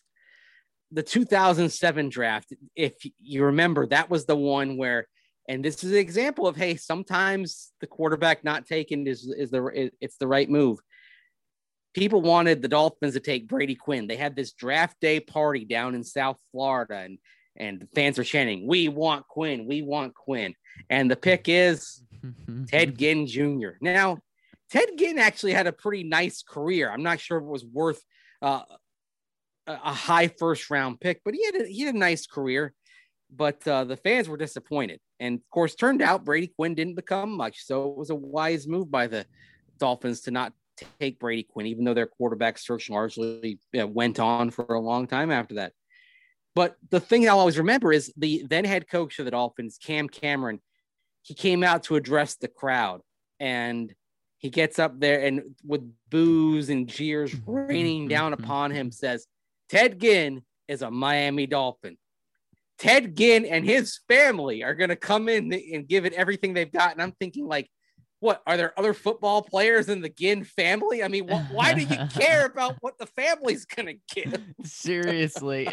2007 draft. If you remember, that was the one where, and this is an example of, hey, sometimes the quarterback not taken is the right move. People wanted the Dolphins to take Brady Quinn. They had this draft day party down in South Florida, and the fans are chanting, "We want Quinn, we want Quinn." And the pick is Ted Ginn Jr. Now, Ted Ginn actually had a pretty nice career. I'm not sure if it was worth a high first round pick, but he had a nice career. But the fans were disappointed. And of course, turned out Brady Quinn didn't become much. So it was a wise move by the Dolphins to not take Brady Quinn, even though their quarterback search largely went on for a long time after that. But the thing I'll always remember is the then head coach of the Dolphins, Cam Cameron. He came out to address the crowd, and he gets up there and with boos and jeers raining down upon him says, Ted Ginn is a Miami Dolphin. Ted Ginn and his family are going to come in and give it everything they've got. And I'm thinking, like, what, are there other football players in the Ginn family? I mean, why do you care about what the family's going to give? Seriously.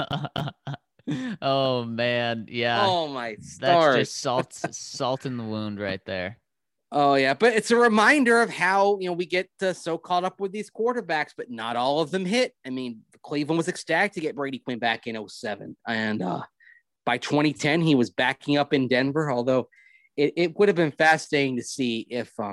Oh, man. Yeah. Oh, my stars. That's just salt in the wound right there. Oh, yeah. But it's a reminder of how, we get so caught up with these quarterbacks, but not all of them hit. I mean, Cleveland was ecstatic to get Brady Quinn back in 2007. And by 2010, he was backing up in Denver, although it would have been fascinating to see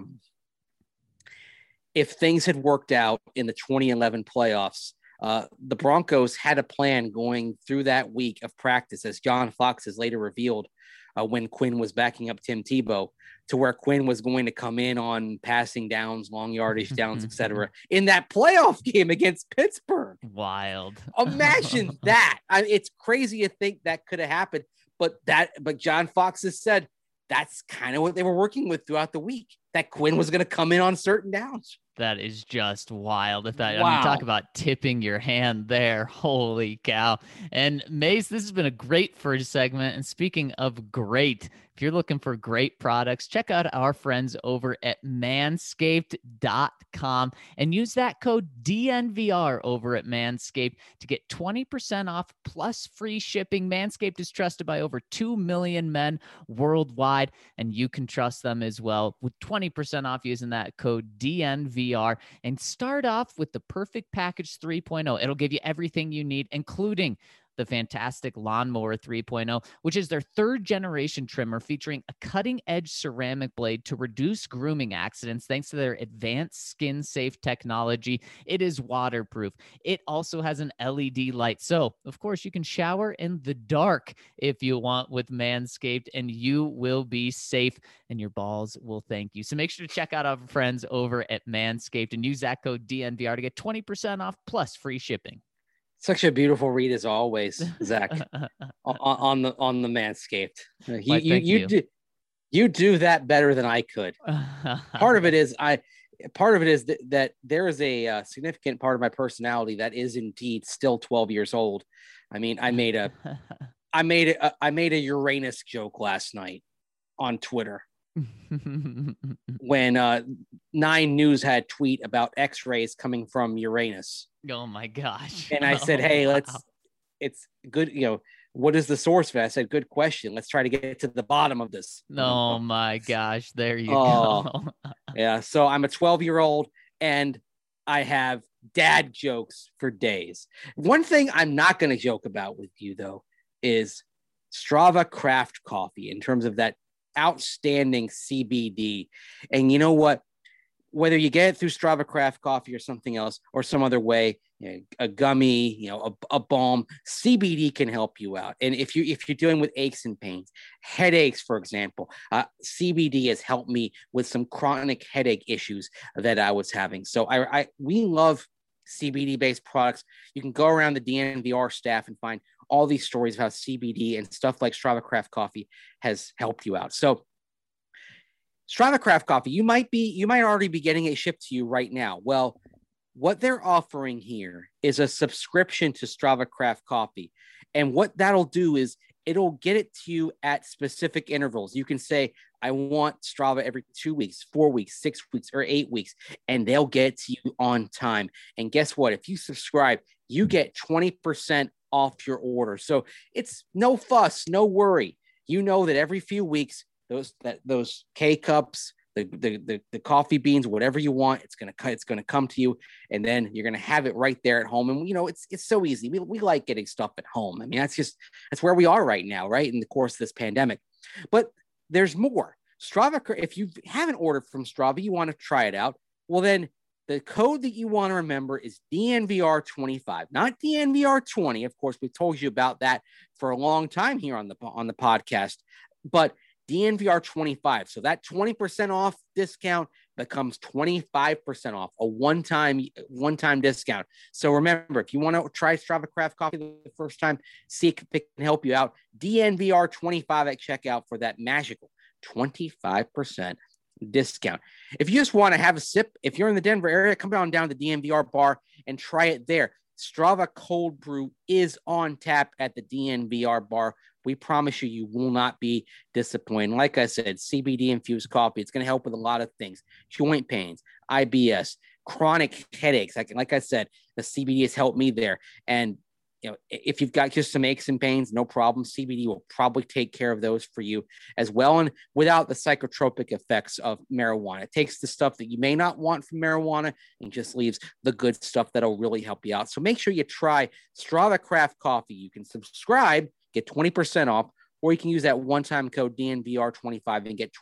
if things had worked out in the 2011 playoffs. The Broncos had a plan going through that week of practice, as John Fox has later revealed when Quinn was backing up Tim Tebow, to where Quinn was going to come in on passing downs, long yardage downs, etc. in that playoff game against Pittsburgh. Wild. Imagine that. It's crazy to think that could have happened, but John Fox has said that's kind of what they were working with throughout the week, that Quinn was going to come in on certain downs. That is just wild. Wow. I mean, talk about tipping your hand there. Holy cow. And Mace, this has been a great first segment. And speaking of great, if you're looking for great products, check out our friends over at manscaped.com and use that code DNVR over at Manscaped to get 20% off plus free shipping. Manscaped is trusted by over 2 million men worldwide, and you can trust them as well with 20% off using that code DNVR. And start off with the Perfect Package 3.0. It'll give you everything you need, including the fantastic Lawnmower 3.0, which is their third generation trimmer featuring a cutting edge ceramic blade to reduce grooming accidents thanks to their advanced skin safe technology. It is waterproof. It also has an LED light. So of course you can shower in the dark if you want with Manscaped, and you will be safe and your balls will thank you. So make sure to check out our friends over at Manscaped and use that code DNVR to get 20% off plus free shipping. Such a beautiful read as always, Zach, on the Manscaped. You do that better than I could. Part of it is that there is a significant part of my personality that is indeed still 12 years old. I mean, I made a Uranus joke last night on Twitter when Nine News had a tweet about X-rays coming from Uranus. Oh my gosh. And I said, hey, it's good. What is the source for that? I said, good question. Let's try to get to the bottom of this. Oh my gosh. There you Oh, go. Yeah. So I'm a 12-year-old and I have dad jokes for days. One thing I'm not going to joke about with you, though, is Strava Craft Coffee in terms of that outstanding CBD. And you know what? Whether you get it through Strava Craft Coffee or something else or some other way, a gummy, a balm, CBD can help you out. And if you're dealing with aches and pains, headaches, for example, CBD has helped me with some chronic headache issues that I was having. So we love CBD based products. You can go around the DNVR staff and find all these stories of how CBD and stuff like Strava Craft Coffee has helped you out. So Strava Craft Coffee, you might already be getting it shipped to you right now. Well, what they're offering here is a subscription to Strava Craft Coffee. And what that'll do is it'll get it to you at specific intervals. You can say, I want Strava every 2 weeks, 4 weeks, 6 weeks, or 8 weeks, and they'll get it to you on time. And guess what? If you subscribe, you get 20% off your order. So it's no fuss, no worry. You know that every few weeks, those K cups, the coffee beans, whatever you want, it's gonna come to you, and then you're gonna have it right there at home. And it's so easy. We like getting stuff at home. I mean, that's where we are right now, right? In the course of this pandemic. But there's more. Strava, if you haven't ordered from Strava, you want to try it out. Well, then the code that you want to remember is DNVR25, not DNVR20. Of course, we've told you about that for a long time here on the podcast, but DNVR25. So that 20% off discount becomes 25% off, a one-time discount. So remember, if you want to try Strava Craft Coffee the first time, see if it can help you out. DNVR25 at checkout for that magical 25% discount. If you just want to have a sip, if you're in the Denver area, come down to the DNVR bar and try it there. Strava Cold Brew is on tap at the DNVR bar. We promise you will not be disappointed. Like I said, CBD infused coffee. It's going to help with a lot of things: joint pains, IBS, chronic headaches. Like I said, the CBD has helped me there. And if you've got just some aches and pains, no problem. CBD will probably take care of those for you as well, and without the psychotropic effects of marijuana. It takes the stuff that you may not want from marijuana and just leaves the good stuff that'll really help you out. So make sure you try Strava Craft Coffee. You can subscribe, get 20% off, or you can use that one-time code DNVR25 and get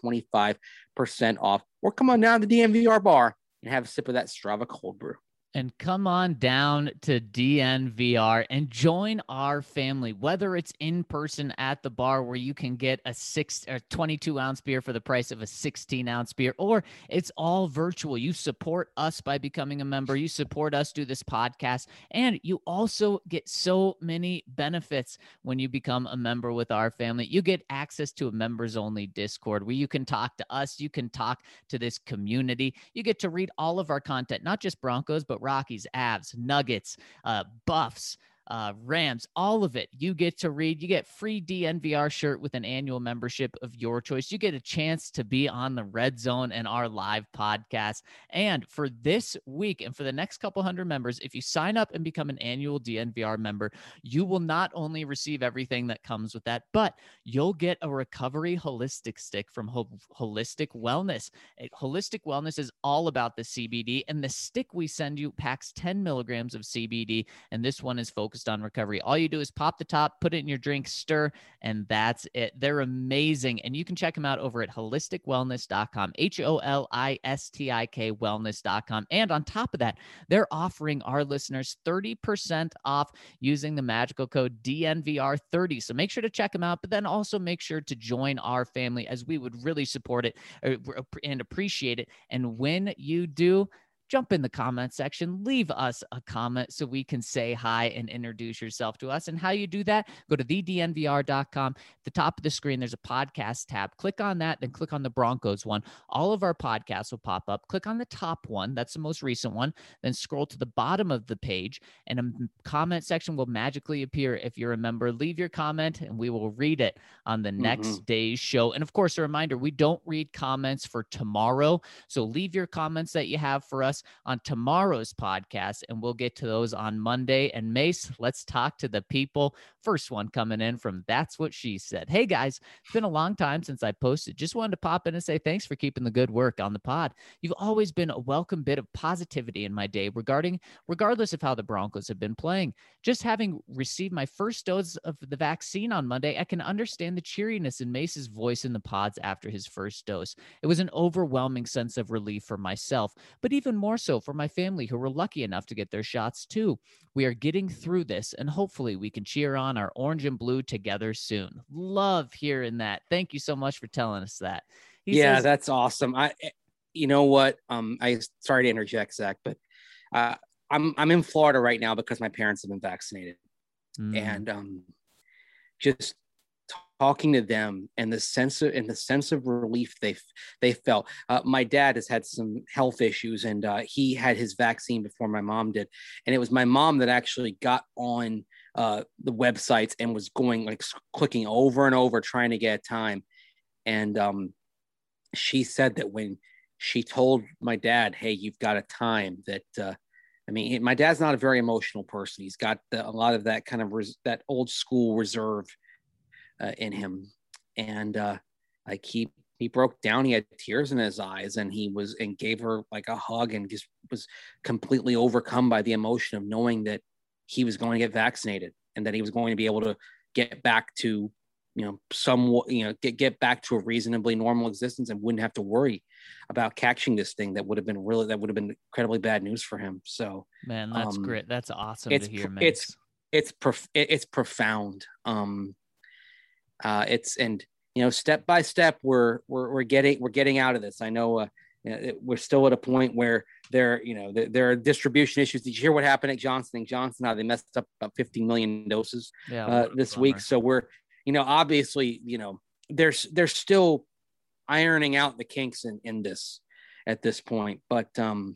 25% off. Or come on down to the DNVR bar and have a sip of that Strava Cold Brew. And come on down to DNVR and join our family, whether it's in person at the bar where you can get a 22-ounce beer for the price of a 16-ounce beer, or it's all virtual. You support us by becoming a member. You support us do this podcast, and you also get so many benefits when you become a member with our family. You get access to a members-only Discord where you can talk to us. You can talk to this community. You get to read all of our content, not just Broncos, but Rockies, Avs, Nuggets, Buffs, Rams, all of it. You get to read. You get free DNVR shirt with an annual membership of your choice. You get a chance to be on the Red Zone and our live podcast. And for this week and for the next couple hundred members, if you sign up and become an annual DNVR member, you will not only receive everything that comes with that, but you'll get a recovery holistic stick from Holistic Wellness. Holistic Wellness is all about the CBD, and the stick we send you packs 10 milligrams of CBD, and this one is focused on recovery. All you do is pop the top, put it in your drink, stir, and that's it. They're amazing. And you can check them out over at holisticwellness.com, HOLISTIK wellness.com. And on top of that, they're offering our listeners 30% off using the magical code DNVR30. So make sure to check them out, but then also make sure to join our family, as we would really support it and appreciate it. And when you do, jump in the comment section, leave us a comment so we can say hi and introduce yourself to us. And how you do that, go to thednvr.com. At the top of the screen, there's a podcast tab. Click on that, then click on the Broncos one. All of our podcasts will pop up. Click on the top one. That's the most recent one. Then scroll to the bottom of the page, and a comment section will magically appear. If you're a member, leave your comment, and we will read it on the next day's show. And of course, a reminder, we don't read comments for tomorrow. So leave your comments that you have for us on tomorrow's podcast, and we'll get to those on Monday. And Mace, let's talk to the people. First one coming in from That's What She Said. Hey guys, it's been a long time since I posted. Just wanted to pop in and say thanks for keeping the good work on the pod. You've always been a welcome bit of positivity in my day regardless of how the Broncos have been playing. Just having received my first dose of the vaccine on Monday, I can understand the cheeriness in Mace's voice in the pods after his first dose. It was an overwhelming sense of relief for myself, but even more so for my family who were lucky enough to get their shots too. We are getting through this, and hopefully we can cheer on our orange and blue together soon. Love hearing that. Thank you so much for telling us that. He says, that's awesome. You know what? I sorry to interject, Zach, but I'm in Florida right now because my parents have been vaccinated, and just talking to them and the sense of relief they felt. My dad has had some health issues, and he had his vaccine before my mom did, and it was my mom that actually got on the websites and was going like clicking over and over trying to get time, and she said that when she told my dad, "Hey, you've got a time," that I mean, my dad's not a very emotional person. He's got a lot of that kind of that old school reserve in him, and like he broke down. He had tears in his eyes, and and gave her like a hug, and just was completely overcome by the emotion of knowing that he was going to get vaccinated and that he was going to be able to get back to get back to a reasonably normal existence and wouldn't have to worry about catching this thing that would have been incredibly bad news for him. So, man, that's great. That's awesome to hear, man. It's profound. Step by step, we're getting out of this. I know we're still at a point where there are distribution issues. Did you hear what happened at Johnson & Johnson? How they messed up about 50 million doses this week. So we're, obviously, they're still ironing out the kinks in this at this point, but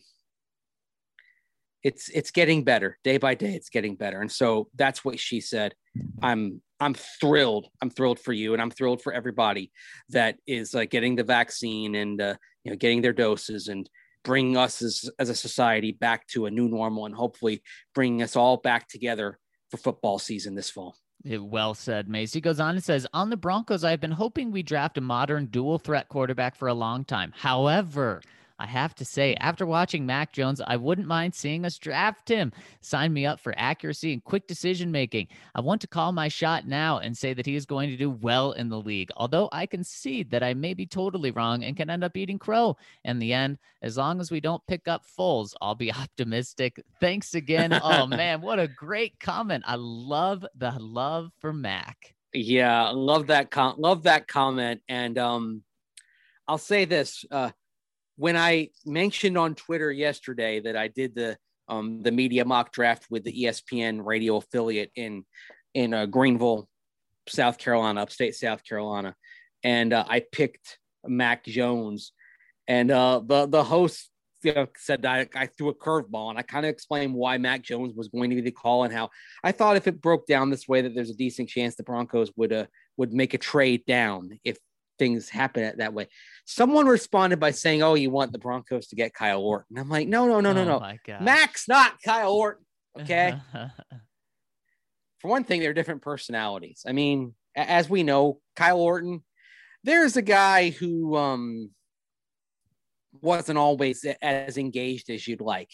it's getting better day by day. It's getting better. And so that's what she said. I'm thrilled. I'm thrilled for you. And I'm thrilled for everybody that is getting the vaccine and, getting their doses and bringing us as a society back to a new normal, and hopefully bringing us all back together for football season this fall. Well said, Mace. He goes on and says, on the Broncos, I've been hoping we draft a modern dual threat quarterback for a long time. However, I have to say, after watching Mac Jones, I wouldn't mind seeing us draft him. Sign me up for accuracy and quick decision-making. I want to call my shot now and say that he is going to do well in the league, although I concede that I may be totally wrong and can end up eating crow in the end. As long as we don't pick up Foles, I'll be optimistic. Thanks again. Oh, man, what a great comment. I love the love for Mac. Yeah, love that comment. And I'll say this. When I mentioned on Twitter yesterday that I did the media mock draft with the ESPN radio affiliate in Greenville, South Carolina, upstate South Carolina, and I picked Mac Jones, and the host said that I threw a curveball, and I kind of explained why Mac Jones was going to be the call and how I thought if it broke down this way that there's a decent chance the Broncos would make a trade down if things happen that way. Someone responded by saying, "Oh, you want the Broncos to get Kyle Orton?" I'm like, no. Mac's not Kyle Orton. Okay. For one thing, they're different personalities. I mean, as we know, Kyle Orton, there's a guy who wasn't always as engaged as you'd like.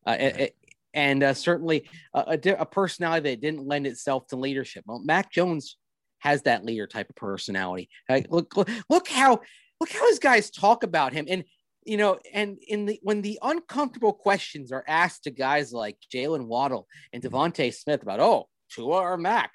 And certainly a personality that didn't lend itself to leadership. Well, Mac Jones has that leader type of personality. Look how his guys talk about him. And, when the uncomfortable questions are asked to guys like Jalen Waddle and Devontae Smith about, Tua or Mac,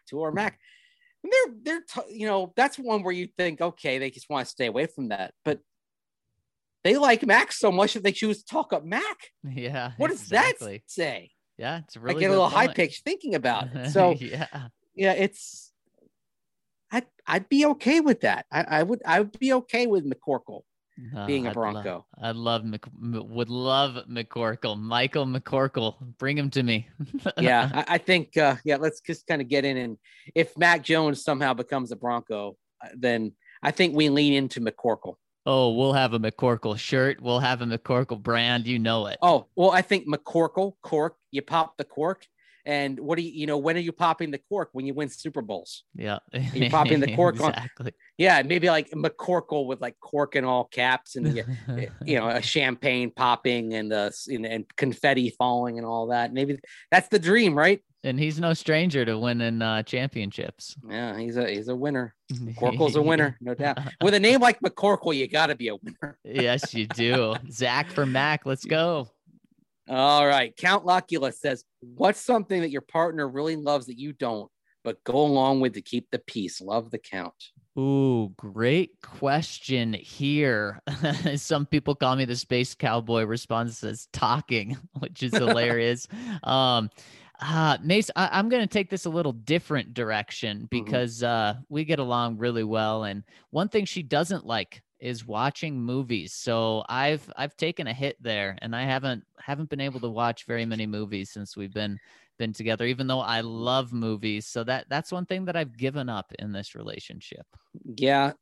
they're that's one where you think, okay, they just want to stay away from that. But they like Mac so much that they choose to talk up Mac. Yeah. What does that say? Yeah, it's I really get a little high pitched thinking about it. So yeah, it's I'd be okay with that. I would be okay with McCorkle being a Bronco. Would love McCorkle. Michael McCorkle, bring him to me. Yeah, I think let's just kind of get in, and if Mac Jones somehow becomes a Bronco, then I think we lean into McCorkle. Oh, we'll have a McCorkle shirt. We'll have a McCorkle brand. You know it. Oh, well, I think McCorkle, cork, you pop the cork. And what do you know, when are you popping the cork? When you win Super Bowls. Yeah. You're popping the cork exactly. Yeah, maybe like McCorkle with like cork in all caps and, a champagne popping and and confetti falling and all that. Maybe that's the dream, right? And he's no stranger to winning championships. Yeah, he's a winner. McCorkle's a winner, no doubt. With a name like McCorkle, you got to be a winner. Yes, you do. Zach for Mac, let's go. All right. Count Locula says, what's something that your partner really loves that you don't, but go along with to keep the peace? Love the count. Ooh, great question here. Some people call me the space cowboy. Response as talking, which is hilarious. Mace, I'm going to take this a little different direction because we get along really well. And one thing she doesn't like is watching movies. So I've taken a hit there, and I haven't been able to watch very many movies since we've been together, even though I love movies. So that's one thing that I've given up in this relationship. Yeah.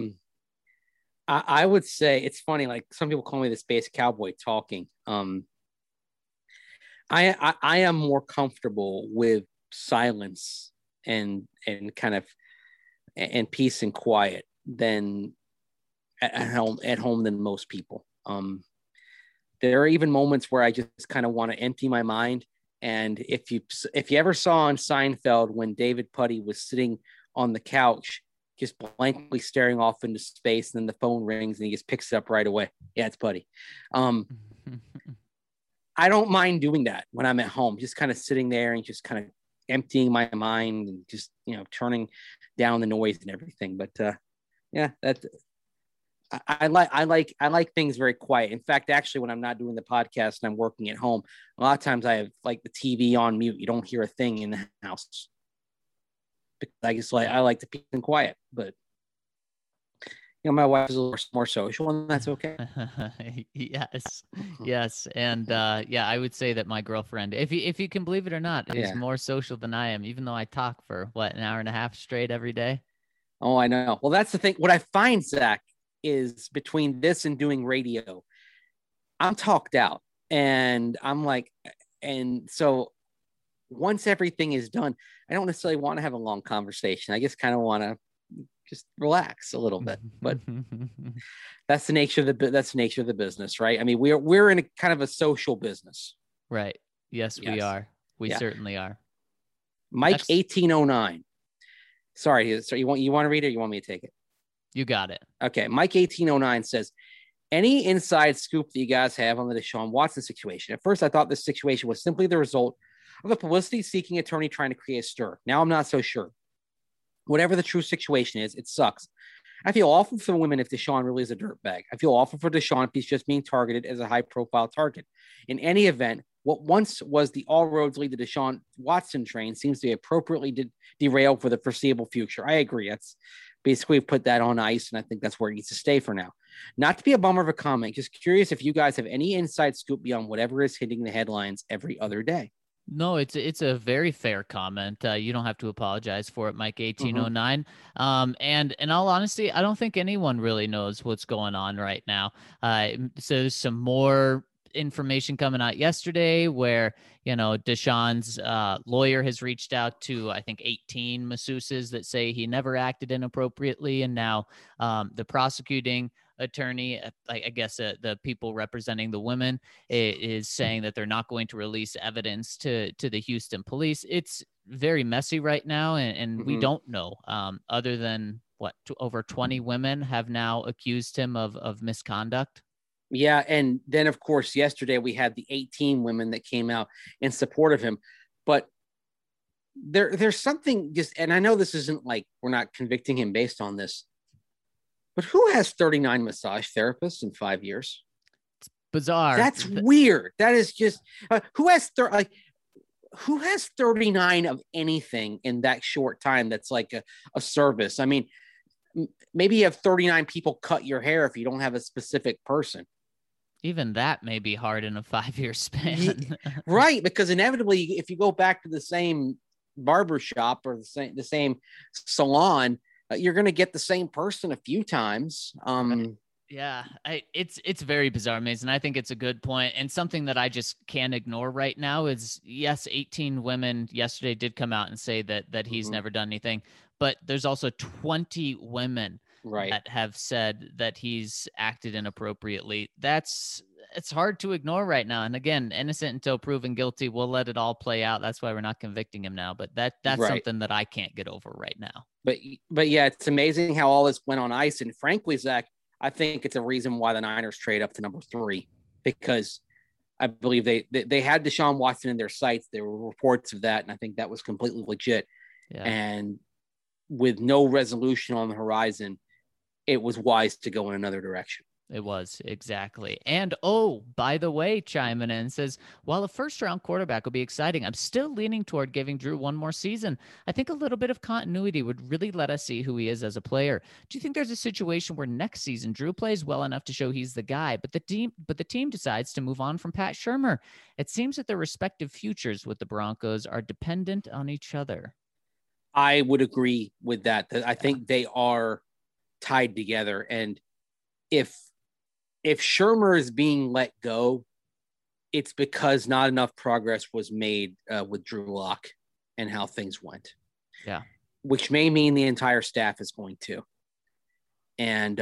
I would say it's funny. Like some people call me the space cowboy talking. I am more comfortable with silence and kind of and peace and quiet than at home than most people. There are even moments where I just kind of want to empty my mind. And if you ever saw on Seinfeld when David Puddy was sitting on the couch, just blankly staring off into space, and then the phone rings and he just picks it up right away. Yeah, it's Puddy. I don't mind doing that when I'm at home, just kind of sitting there and just kind of emptying my mind and just, turning down the noise and everything. But I like things very quiet. In fact, actually, when I'm not doing the podcast and I'm working at home, a lot of times I have like the TV on mute. You don't hear a thing in the house. Because I like the peace and quiet, but my wife is a little more social, and that's okay. yes. And I would say that my girlfriend, if you can believe it or not, is more social than I am, even though I talk for an hour and a half straight every day. Oh, I know. Well, that's the thing. What I find, Zach, is between this and doing radio, I'm talked out, and I'm like, and so once everything is done, I don't necessarily want to have a long conversation. I just kind of want to just relax a little bit, but that's the nature of the business, right? I mean, we're in a kind of a social business, right? Yes. We are. We certainly are. Mike 1809. Sorry, you want to read it, or you want me to take it? You got it. Okay. Mike 1809 says, any inside scoop that you guys have on the Deshaun Watson situation? At first, I thought this situation was simply the result of a publicity-seeking attorney trying to create a stir. Now I'm not so sure. Whatever the true situation is, it sucks. I feel awful for the women if Deshaun really is a dirtbag. I feel awful for Deshaun if he's just being targeted as a high-profile target. In any event, what once was the all roads lead to Deshaun Watson train seems to be appropriately derailed for the foreseeable future. I agree. That's basically put that on ice, and I think that's where it needs to stay for now. Not to be a bummer of a comment, just curious if you guys have any inside scoop beyond whatever is hitting the headlines every other day. No, it's a very fair comment. You don't have to apologize for it, Mike 1809. And in all honesty, I don't think anyone really knows what's going on right now. So there's some more information coming out yesterday where, Deshaun's lawyer has reached out to, I think, 18 masseuses that say he never acted inappropriately. And now the prosecuting attorney, I guess the people representing the women, is saying that they're not going to release evidence to the Houston police. It's very messy right now, and we don't know, other than over 20 women have now accused him of misconduct. Yeah, and then of course yesterday we had the 18 women that came out in support of him, but there's something just, and I know this isn't like we're not convicting him based on this, But who has 39 massage therapists in 5 years? Bizarre. That's weird. That is just who has 39 of anything in that short time? That's like a service. I mean, maybe you have 39 people cut your hair if you don't have a specific person. Even that may be hard in a 5-year span. Right, because inevitably, if you go back to the same barbershop or the same salon, you're going to get the same person a few times. Right. Yeah, it's very bizarre, Mason. I think it's a good point, and something that I just can't ignore right now is, yes, 18 women yesterday did come out and say that he's never done anything, but there's also 20 women that have said that he's acted inappropriately. It's hard to ignore right now. And again, innocent until proven guilty. We'll let it all play out. That's why we're not convicting him now. But that's something that I can't get over right now. But yeah, it's amazing how all this went on ice. And frankly, Zach, I think it's a reason why the Niners trade up to number 3, because I believe they had Deshaun Watson in their sights. There were reports of that, and I think that was completely legit. Yeah. And with no resolution on the horizon, it was wise to go in another direction. It was, exactly. And, oh, by the way, chiming in says, while a first-round quarterback will be exciting, I'm still leaning toward giving Drew one more season. I think a little bit of continuity would really let us see who he is as a player. Do you think there's a situation where next season Drew plays well enough to show he's the guy, but the team decides to move on from Pat Shurmur? It seems that their respective futures with the Broncos are dependent on each other. I would agree with that. I think they are tied together. And if Shurmur is being let go, it's because not enough progress was made with Drew Lock and how things went. Yeah. Which may mean the entire staff is going to. And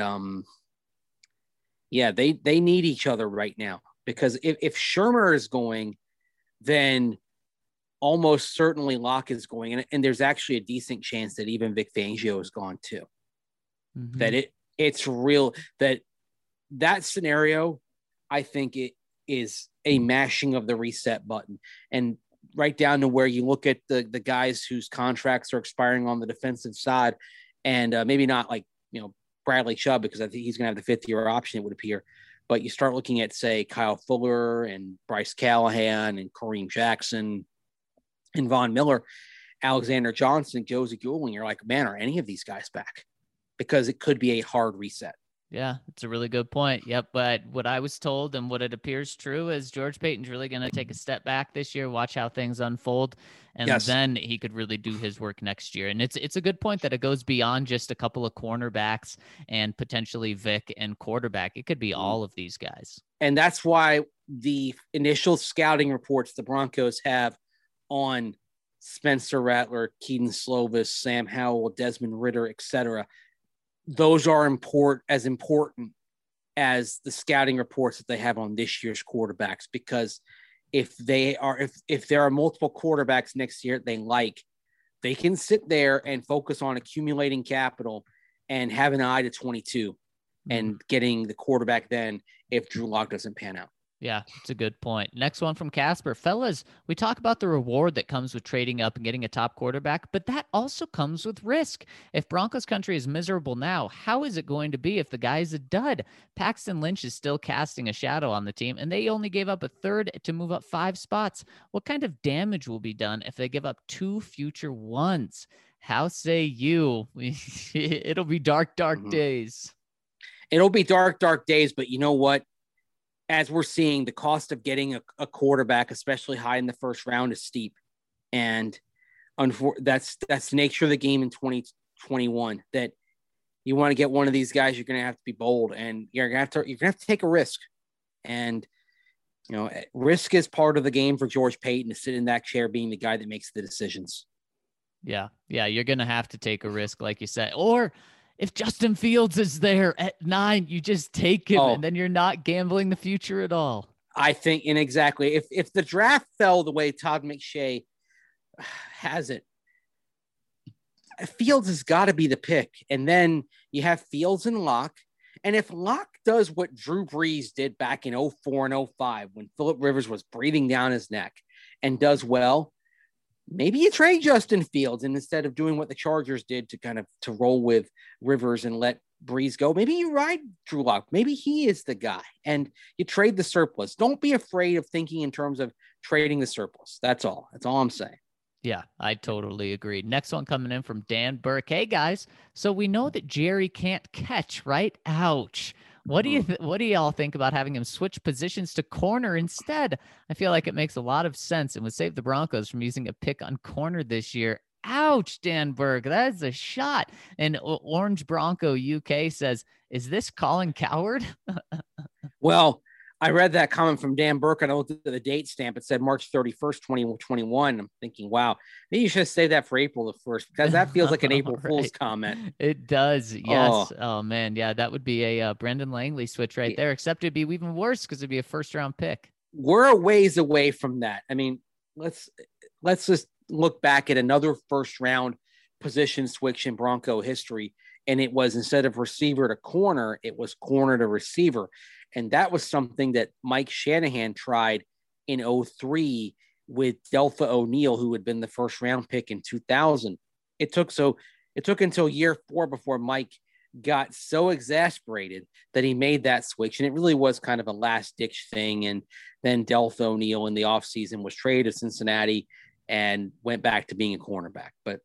yeah, they need each other right now, because if Shurmur is going, then almost certainly Lock is going. And there's actually a decent chance that even Vic Fangio is gone too. Mm-hmm. That it's real that scenario, I think it is a mashing of the reset button, and right down to where you look at the guys whose contracts are expiring on the defensive side, and maybe not like, Bradley Chubb, because I think he's going to have the 5th-year option, it would appear. But you start looking at, say, Kyle Fuller and Bryce Callahan and Kareem Jackson and Von Miller, Alexander Johnson, Josie Goulding. You're like, man, are any of these guys back? Because it could be a hard reset. Yeah, it's a really good point. Yep. But what I was told and what it appears true is George Paton's really going to take a step back this year, watch how things unfold, and then he could really do his work next year. And it's a good point that it goes beyond just a couple of cornerbacks and potentially Vic and quarterback. It could be all of these guys. And that's why the initial scouting reports the Broncos have on Spencer Rattler, Keaton Slovis, Sam Howell, Desmond Ridder, etc., those are as important as the scouting reports that they have on this year's quarterbacks, because if there are multiple quarterbacks next year they can sit there and focus on accumulating capital and have an eye to 22 and getting the quarterback then if Drew Lock doesn't pan out. Yeah, it's a good point. Next one from Casper. Fellas, we talk about the reward that comes with trading up and getting a top quarterback, but that also comes with risk. If Broncos country is miserable now, how is it going to be if the guy is a dud? Paxton Lynch is still casting a shadow on the team, and they only gave up a third to move up 5 spots. What kind of damage will be done if they give up 2 future ones? How say you? It'll be dark days. It'll be dark days, but you know what? As we're seeing, the cost of getting a quarterback, especially high in the first round, is steep. And that's the nature of the game in 2021, that you want to get one of these guys, you're going to have to be bold, and you're going to have to take a risk. And, risk is part of the game for George Paton, to sit in that chair being the guy that makes the decisions. Yeah. You're going to have to take a risk, like you said. Or if Justin Fields is there at 9, you just take him, and then you're not gambling the future at all. I think, and exactly, if the draft fell the way Todd McShay has it, Fields has got to be the pick. And then you have Fields and Locke. And if Locke does what Drew Brees did back in 04 and 05, when Phillip Rivers was breathing down his neck, and does well, maybe you trade Justin Fields, and instead of doing what the Chargers did to roll with Rivers and let Breeze go. Maybe you ride Drew Lock. Maybe he is the guy, and you trade the surplus. Don't be afraid of thinking in terms of trading the surplus. That's all. That's all I'm saying. Yeah, I totally agree. Next one coming in from Dan Burke. Hey guys, so we know that Jerry can't catch, right? Ouch. What do you what do y'all think about having him switch positions to corner instead? I feel like it makes a lot of sense and would save the Broncos from using a pick on corner this year. Ouch, Dan Burke. That is a shot. And Orange Bronco UK says, "Is this Colin Coward?" Well, I read that comment from Dan Burke and I looked at the date stamp. It said March 31st, 2021. I'm thinking, wow, maybe you should have saved that for April the 1st because that feels like an April Fool's comment. It does. Yes. Oh, man. Yeah, that would be a Brendan Langley switch right there, except it'd be even worse because it'd be a first round pick. We're a ways away from that. I mean, let's just look back at another first round position switch in Bronco history. And it was, instead of receiver to corner, it was corner to receiver. And that was something that Mike Shanahan tried in 2003 with Deltha O'Neal, who had been the first round pick in 2000. It took until year 4 before Mike got so exasperated that he made that switch. And it really was kind of a last ditch thing. And then Deltha O'Neal in the offseason was traded to Cincinnati and went back to being a cornerback. But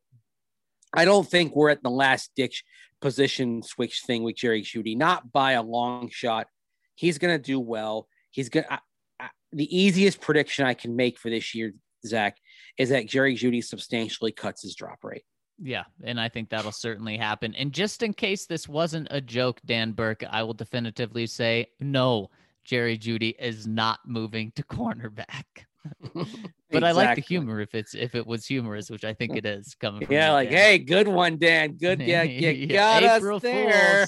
I don't think we're at the last ditch position switch thing with Jerry Jeudy, not by a long shot. He's going to do well. He's going to, the easiest prediction I can make for this year, Zach, is that Jerry Jeudy substantially cuts his drop rate. Yeah, and I think that'll certainly happen. And just in case this wasn't a joke, Dan Burke, I will definitively say, no, Jerry Jeudy is not moving to cornerback. But exactly. I like the humor if it was humorous, which I think it is coming from like, Dan. Hey, good one, Dan. Good. Yeah, you got April us there.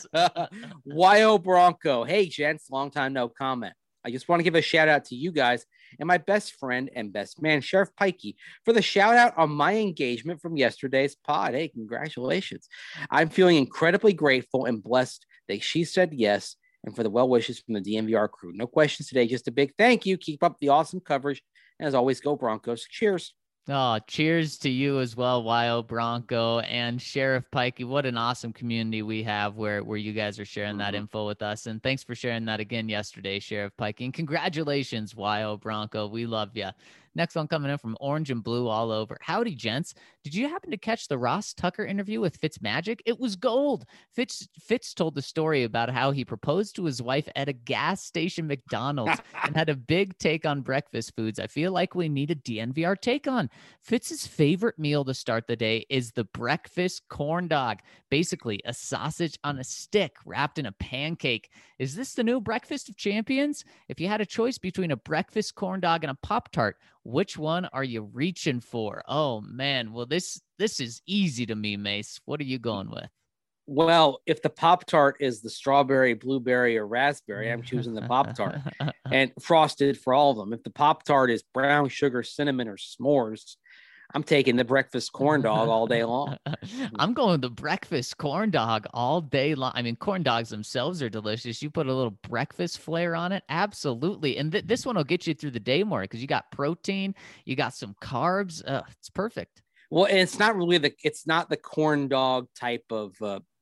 YO Bronco. Hey, gents, long time no comment. I just want to give a shout out to you guys and my best friend and best man, Sheriff Pikey, for the shout out on my engagement from yesterday's pod. Hey, congratulations. I'm feeling incredibly grateful and blessed that she said yes, and for the well wishes from the DNVR crew. No questions today, just a big thank you. Keep up the awesome coverage. And as always, go Broncos. Cheers. Oh, cheers to you as well, YO Bronco and Sheriff Pikey. What an awesome community we have where you guys are sharing that info with us. And thanks for sharing that again yesterday, Sheriff Pikey. And congratulations, YO Bronco. We love you. Next one coming in from Orange and Blue all over. Howdy, gents. Did you happen to catch the Ross Tucker interview with Fitzmagic? It was gold. Fitz told the story about how he proposed to his wife at a gas station McDonald's and had a big take on breakfast foods I feel like we need a DNVR take on. Fitz's favorite meal to start the day is the breakfast corn dog, basically a sausage on a stick wrapped in a pancake. Is this the new breakfast of champions? If you had a choice between a breakfast corn dog and a Pop-Tart, which one are you reaching for? Oh, man. Well, this is easy to me, Mace. What are you going with? Well, if the Pop-Tart is the strawberry, blueberry, or raspberry, I'm choosing the Pop-Tart and frosted for all of them. If the Pop-Tart is brown sugar, cinnamon, or s'mores, I'm taking the breakfast corn dog all day long. I'm going the breakfast corn dog all day long. I mean, corn dogs themselves are delicious. You put a little breakfast flair on it. Absolutely. And this one will get you through the day more because you got protein, you got some carbs. It's perfect. Well, and it's not really it's not the corn dog type of,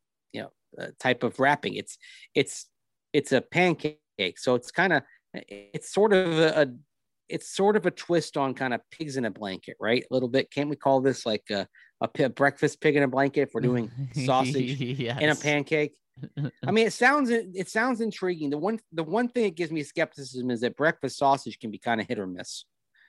type of wrapping. It's a pancake. So it's sort of a twist on kind of pigs in a blanket, right? A little bit. Can't we call this like a breakfast pig in a blanket if we're doing sausage yes. in a pancake? I mean, it sounds intriguing. The one thing that gives me skepticism is that breakfast sausage can be kind of hit or miss.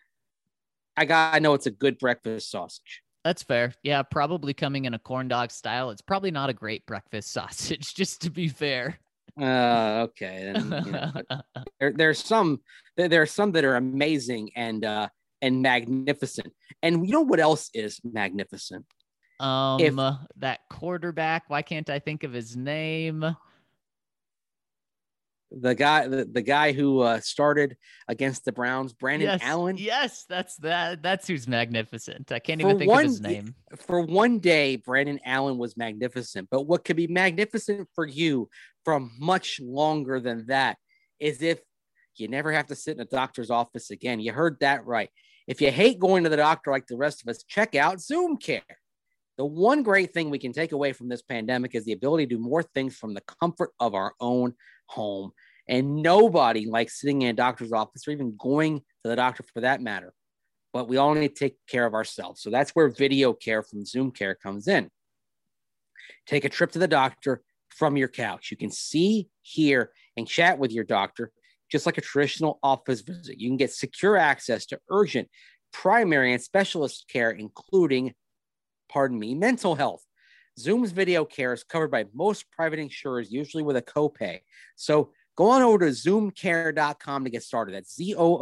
I know it's a good breakfast sausage. That's fair. Yeah, probably coming in a corn dog style. It's probably not a great breakfast sausage, just to be fair. Okay. Then, there's some that are amazing and magnificent. And you know what else is magnificent? That quarterback. Why can't I think of his name? The guy who started against the Browns, Brandon Allen. Yes, that's who's magnificent. I can't even think of his name. For one day, Brandon Allen was magnificent. But what could be magnificent for you from much longer than that is if you never have to sit in a doctor's office again. You heard that right. If you hate going to the doctor like the rest of us, check out Zoom Care. The one great thing we can take away from this pandemic is the ability to do more things from the comfort of our own home. And nobody likes sitting in a doctor's office or even going to the doctor for that matter. But we all need to take care of ourselves. So that's where video care from Zoom Care comes in. Take a trip to the doctor from your couch. You can see, hear, and chat with your doctor just like a traditional office visit. You can get secure access to urgent, primary, and specialist care, including, mental health. Zoom's video care is covered by most private insurers, usually with a copay. So go on over to zoomcare.com to get started. That's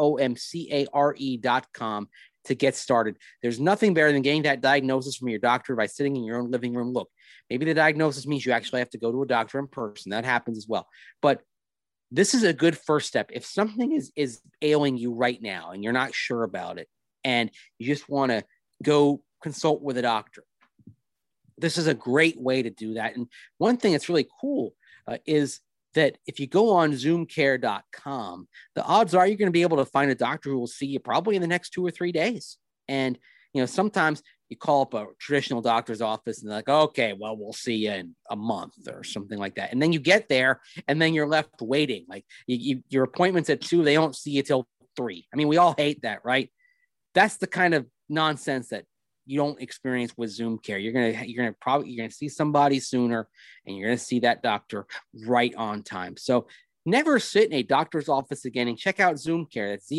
ZOOMCARE.com to get started. There's nothing better than getting that diagnosis from your doctor by sitting in your own living room. Look, maybe the diagnosis means you actually have to go to a doctor in person. That happens as well. But this is a good first step. If something is ailing you right now and you're not sure about it and you just want to go consult with a doctor, this is a great way to do that. And one thing that's really cool is that if you go on zoomcare.com, the odds are you're going to be able to find a doctor who will see you probably in the next 2 or 3 days. And, sometimes you call up a traditional doctor's office and they're like, okay, well, we'll see you in a month or something like that. And then you get there and then you're left waiting. Like your appointment's at 2, they don't see you till 3. I mean, we all hate that, right? That's the kind of nonsense that you don't experience with Zoom Care. You're gonna see somebody sooner, and you're gonna see that doctor right on time. So never sit in a doctor's office again, and check out Zoom Care. That's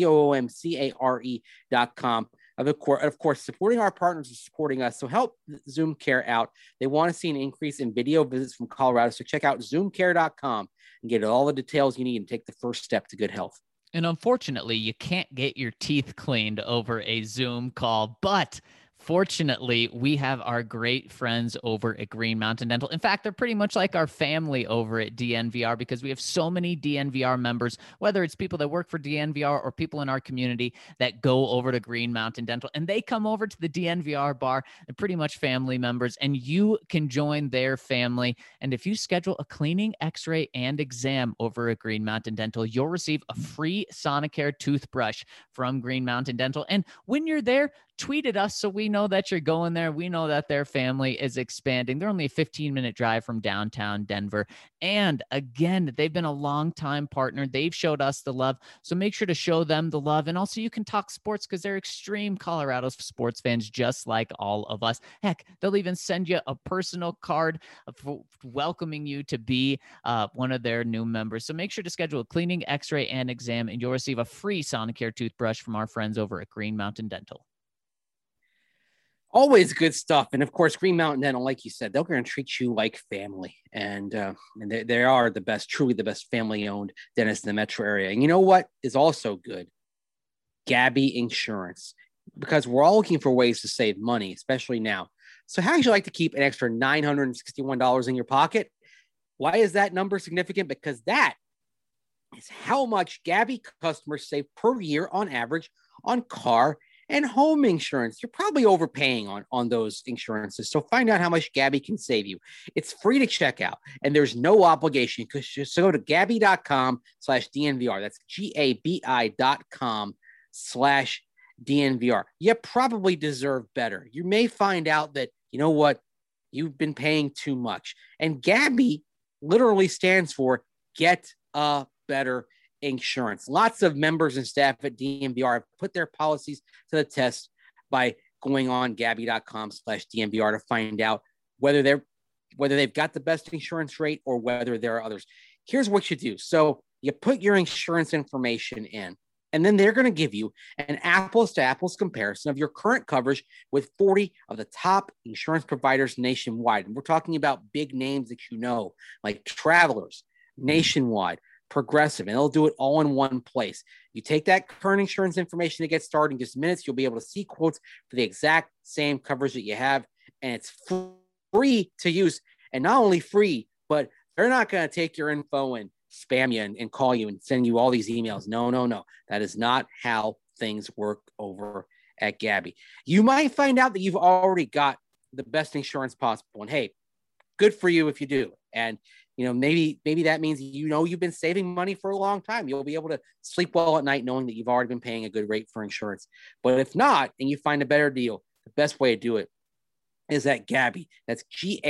ZOOMCARE.com. Of course, supporting our partners is supporting us. So help Zoom Care out. They want to see an increase in video visits from Colorado. So check out zoomcare.com and get all the details you need and take the first step to good health. And unfortunately, you can't get your teeth cleaned over a Zoom call, but fortunately, we have our great friends over at Green Mountain Dental. In fact, they're pretty much like our family over at DNVR because we have so many DNVR members, whether it's people that work for DNVR or people in our community that go over to Green Mountain Dental, and they come over to the DNVR bar. They're pretty much family members, and you can join their family. And if you schedule a cleaning, x-ray, and exam over at Green Mountain Dental, you'll receive a free Sonicare toothbrush from Green Mountain Dental. And when you're there, tweet at us so we know that you're going there. We know that their family is expanding. They're only a 15-minute drive from downtown Denver. And again, they've been a long-time partner. They've showed us the love. So make sure to show them the love. And also you can talk sports because they're extreme Colorado sports fans just like all of us. Heck, they'll even send you a personal card welcoming you to be one of their new members. So make sure to schedule a cleaning, x-ray, and exam, and you'll receive a free Sonicare toothbrush from our friends over at Green Mountain Dental. Always good stuff. And of course, Green Mountain Dental, like you said, they're going to treat you like family. And they are the best, truly the best family-owned dentist in the metro area. And you know what is also good? Gabi Insurance. Because we're all looking for ways to save money, especially now. So how would you like to keep an extra $961 in your pocket? Why is that number significant? Because that is how much Gabi customers save per year on average on car and home insurance. You're probably overpaying on those insurances. So find out how much Gabi can save you. It's free to check out and there's no obligation. Just go to gabi.com/DNVR. That's GABI.com/DNVR. You probably deserve better. You may find out that, you know what, you've been paying too much. And Gabi literally stands for Get a Better Insurance. Lots of members and staff at DNVR have put their policies to the test by going on gabi.com/DNVR to find out whether they've got the best insurance rate or whether there are others. Here's what you do. So you put your insurance information in, and then they're going to give you an apples to apples comparison of your current coverage with 40 of the top insurance providers nationwide. And we're talking about big names that you know, like Travelers, Nationwide, Progressive, and they'll do it all in one place. You take that current insurance information to get started in just minutes. You'll be able to see quotes for the exact same coverage that you have, and it's free to use. And not only free, but they're not going to take your info and spam you and call you and send you all these emails. No. That is not how things work over at Gabi. You might find out that you've already got the best insurance possible, and hey, good for you if you do. And maybe that means you've been saving money for a long time. You'll be able to sleep well at night knowing that you've already been paying a good rate for insurance. But if not, and you find a better deal, the best way to do it is at Gabi. That's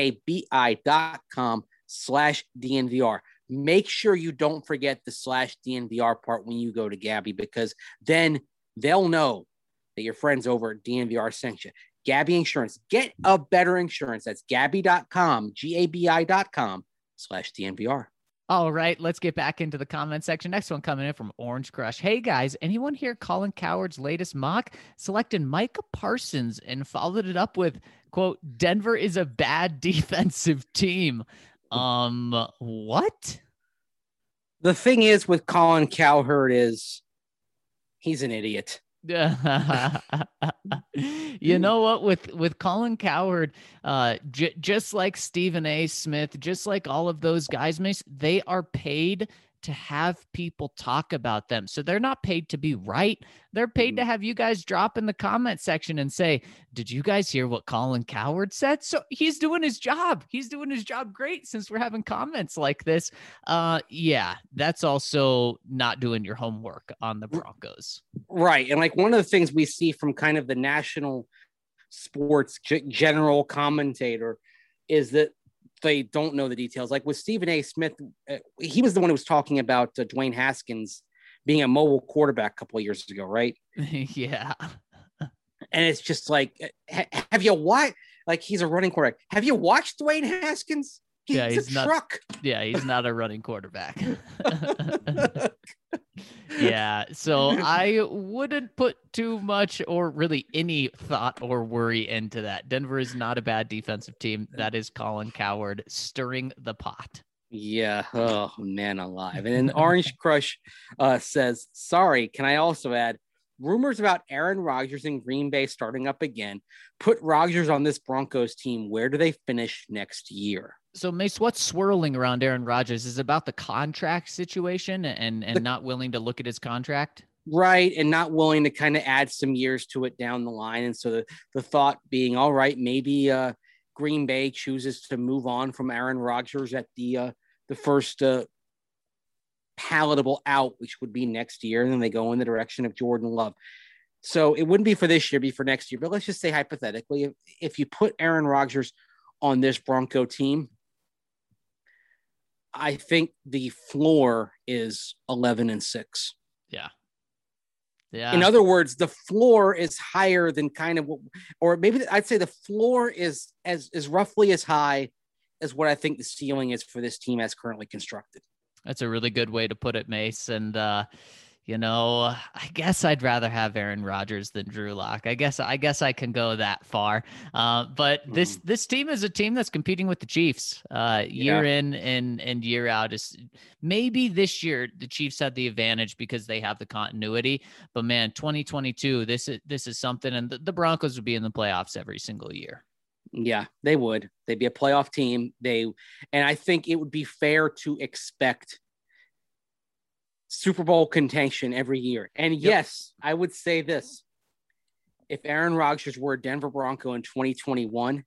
GABI.com/DNVR. Make sure you don't forget the /DNVR part when you go to Gabi, because then they'll know that your friends over at DNVR sent you. Gabi Insurance. Get a better insurance. That's Gabi.com, GABI.com/DNVR. All right, let's get back into the comment section. Next one coming in from Orange Crush. Hey guys, anyone hear Colin Cowherd's latest mock? Selected Micah Parsons and followed it up with, quote, Denver is a bad defensive team. What? The thing is with Colin Cowherd is he's an idiot. You know what, with Colin Cowherd, just like Stephen A. Smith, just like all of those guys, Mace, they are paid to have people talk about them. So they're not paid to be right. They're paid to have you guys drop in the comment section and say, did you guys hear what Colin Cowherd said? So he's doing his job. He's doing his job great since we're having comments like this. Yeah, that's also not doing your homework on the Broncos. Right. And like one of the things we see from kind of the national sports general commentator is that they don't know the details. Like with Stephen A. Smith, he was the one who was talking about Dwayne Haskins being a mobile quarterback a couple of years ago, right? Yeah. And it's just like, have you watched? Like, he's a running quarterback. Have you watched Dwayne Haskins? He's a truck. Yeah, he's not a running quarterback. Yeah, so I wouldn't put too much or really any thought or worry into that. Denver is not a bad defensive team. That is Colin Cowherd stirring the pot. Yeah. Oh, man alive. And then Orange Crush says, sorry, can I also add, rumors about Aaron Rodgers in Green Bay starting up again. Put Rodgers on this Broncos team. Where do they finish next year? So, Mace, what's swirling around Aaron Rodgers? Is it about the contract situation and not willing to look at his contract? Right, and not willing to kind of add some years to it down the line. And so the thought being, all right, maybe Green Bay chooses to move on from Aaron Rodgers at the first palatable out, which would be next year, and then they go in the direction of Jordan Love. So it wouldn't be for this year, be for next year. But let's just say hypothetically, if you put Aaron Rodgers on this Bronco team, I think the floor is 11-6. Yeah. Yeah. In other words, the floor is higher than kind of what, or maybe I'd say the floor is roughly as high as what I think the ceiling is for this team as currently constructed. That's a really good way to put it, Mace. And, I guess I'd rather have Aaron Rodgers than Drew Lock. I guess I can go that far. But this team is a team that's competing with the Chiefs year in and year out. Maybe this year the Chiefs had the advantage because they have the continuity. But man, 2022, this is something, and the Broncos would be in the playoffs every single year. Yeah, they would. They'd be a playoff team. And I think it would be fair to expect Super Bowl contention every year. And yes, I would say this. If Aaron Rodgers were a Denver Bronco in 2021,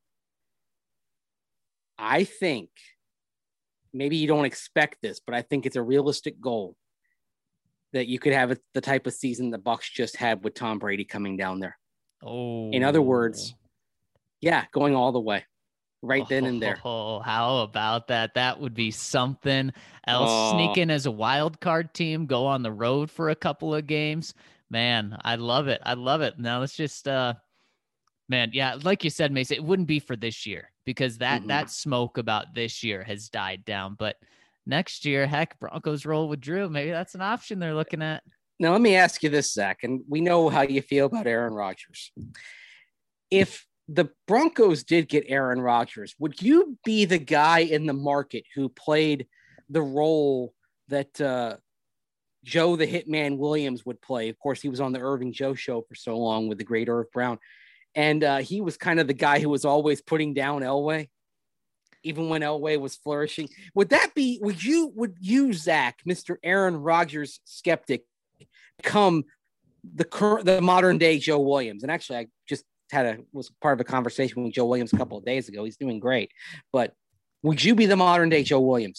I think maybe you don't expect this, but I think it's a realistic goal that you could have the type of season the Bucs just had with Tom Brady coming down there. Oh, in other words, yeah, going all the way. Right then and there. Oh, how about that? That would be something else. Sneak in as a wild card team, go on the road for a couple of games. Man, I love it. I love it. Now let's just, man, yeah, like you said, Mace, it wouldn't be for this year because that smoke about this year has died down. But next year, heck, Broncos roll with Drew. Maybe that's an option they're looking at. Now, let me ask you this, Zach, and we know how you feel about Aaron Rodgers. If the Broncos did get Aaron Rodgers, would you be the guy in the market who played the role that Joe the Hitman Williams would play? Of course, he was on the Irving Joe show for so long with the great Irv Brown. And he was kind of the guy who was always putting down Elway, even when Elway was flourishing. Would you, Zach, Mr. Aaron Rodgers skeptic, become the modern day Joe Williams? And actually, I just was part of a conversation with Joe Williams a couple of days ago. He's doing great, but would you be the modern day Joe Williams?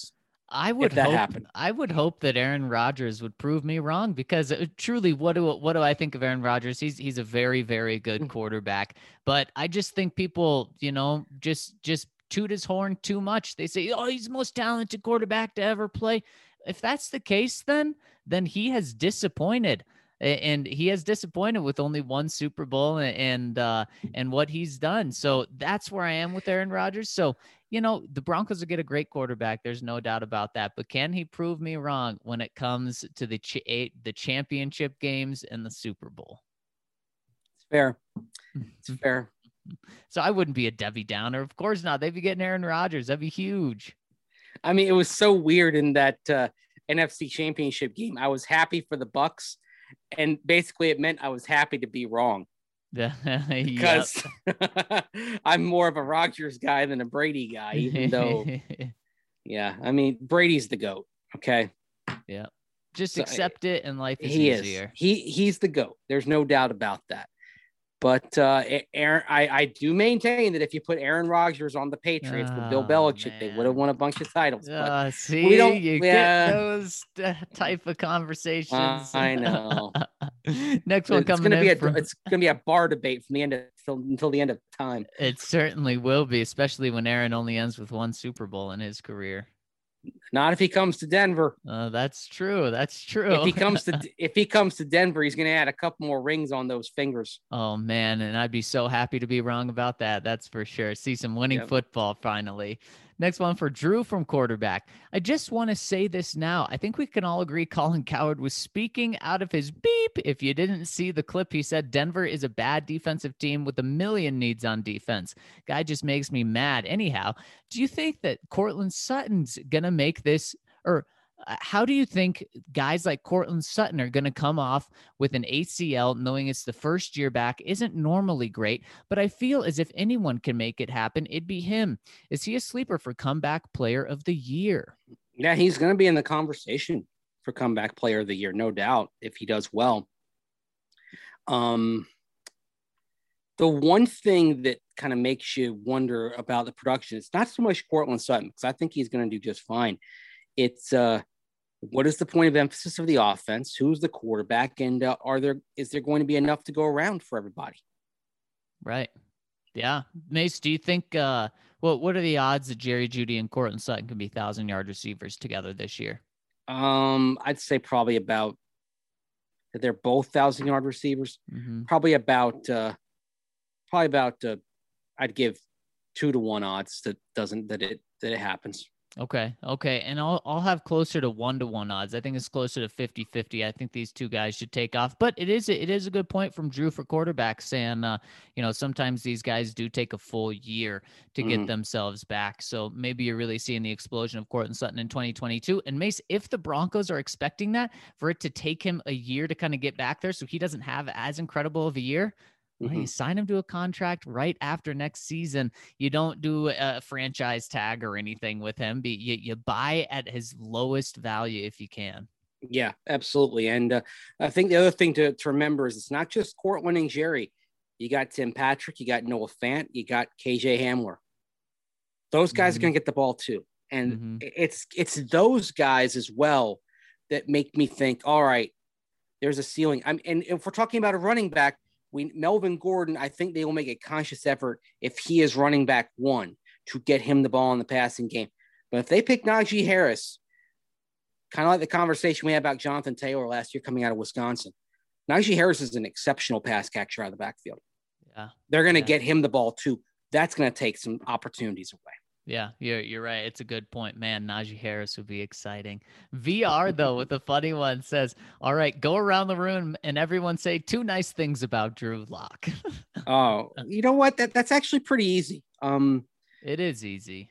I would that hope happened. I would hope that Aaron Rodgers would prove me wrong, because truly, what do I think of Aaron Rodgers? He's a very, very good quarterback, but I just think people, just toot his horn too much. They say, "Oh, he's the most talented quarterback to ever play." If that's the case, then he has disappointed. And he has disappointed with only one Super Bowl and what he's done. So that's where I am with Aaron Rodgers. So, the Broncos will get a great quarterback. There's no doubt about that. But can he prove me wrong when it comes to the championship games and the Super Bowl? It's fair. It's fair. So I wouldn't be a Debbie Downer. Of course not. They'd be getting Aaron Rodgers. That'd be huge. I mean, it was so weird in that NFC Championship game. I was happy for the Bucks, and basically it meant I was happy to be wrong. Because I'm more of a Rodgers guy than a Brady guy, even though, I mean, Brady's the GOAT. Okay. Yeah. Just accept it, and life is easier. He's the GOAT. There's no doubt about that. But Aaron, I do maintain that if you put Aaron Rodgers on the Patriots with Bill Belichick, they would have won a bunch of titles. See, we don't get those type of conversations. I know. Next one coming it's gonna be a bar debate from the end until the end of time. It certainly will be, especially when Aaron only ends with one Super Bowl in his career. Not if he comes to Denver. That's true. That's true. If he comes to Denver, he's going to add a couple more rings on those fingers. Oh man, and I'd be so happy to be wrong about that. That's for sure. See some winning football finally. Next one for Drew from quarterback. I just want to say this now. I think we can all agree Colin Cowherd was speaking out of his beep. If you didn't see the clip, he said Denver is a bad defensive team with a million needs on defense. Guy just makes me mad. Anyhow, do you think that Courtland Sutton's going to make this, or how do you think guys like Courtland Sutton are going to come off with an ACL, knowing it's the first year back? Isn't normally great, but I feel as if anyone can make it happen, it'd be him. Is he a sleeper for comeback player of the year? Yeah, he's going to be in the conversation for comeback player of the year, no doubt, if he does well. The one thing that kind of makes you wonder about the production, it's not so much Courtland Sutton, because I think he's going to do just fine. It's what is the point of emphasis of the offense? Who's the quarterback? And is there going to be enough to go around for everybody? Right. Yeah. Mace, do you think what are the odds that Jerry Jeudy and Courtland Sutton can be 1,000-yard receivers together this year? I'd say probably about that they're both 1,000-yard receivers. Mm-hmm. Probably about I'd give 2-to-1 odds that it happens. Okay. And I'll have closer to 1-to-1 odds. I think it's closer to 50-50. I think these two guys should take off, but it is a good point from Drew for quarterbacks saying, sometimes these guys do take a full year to get themselves back. So maybe you're really seeing the explosion of Courtland Sutton in 2022. And Mace, if the Broncos are expecting that for it to take him a year to kind of get back there, so he doesn't have as incredible of a year, well, you sign him to a contract right after next season. You don't do a franchise tag or anything with him. You buy at his lowest value if you can. Yeah, absolutely. And I think the other thing to remember is it's not just Courtland and Jerry. You got Tim Patrick, you got Noah Fant, you got KJ Hamler. Those guys are going to get the ball too. And it's those guys as well that make me think, all right, there's a ceiling. And if we're talking about a running back, Melvin Gordon, I think they will make a conscious effort if he is running back one to get him the ball in the passing game. But if they pick Najee Harris, kind of like the conversation we had about Jonathan Taylor last year coming out of Wisconsin, Najee Harris is an exceptional pass catcher out of the backfield. Yeah, they're going to get him the ball too. That's going to take some opportunities away. Yeah, you're right. It's a good point, man. Najee Harris would be exciting. VR, though, with the funny one says, all right, go around the room and everyone say 2 nice things about Drew Lock. Oh, you know what? That's actually pretty easy. It is easy.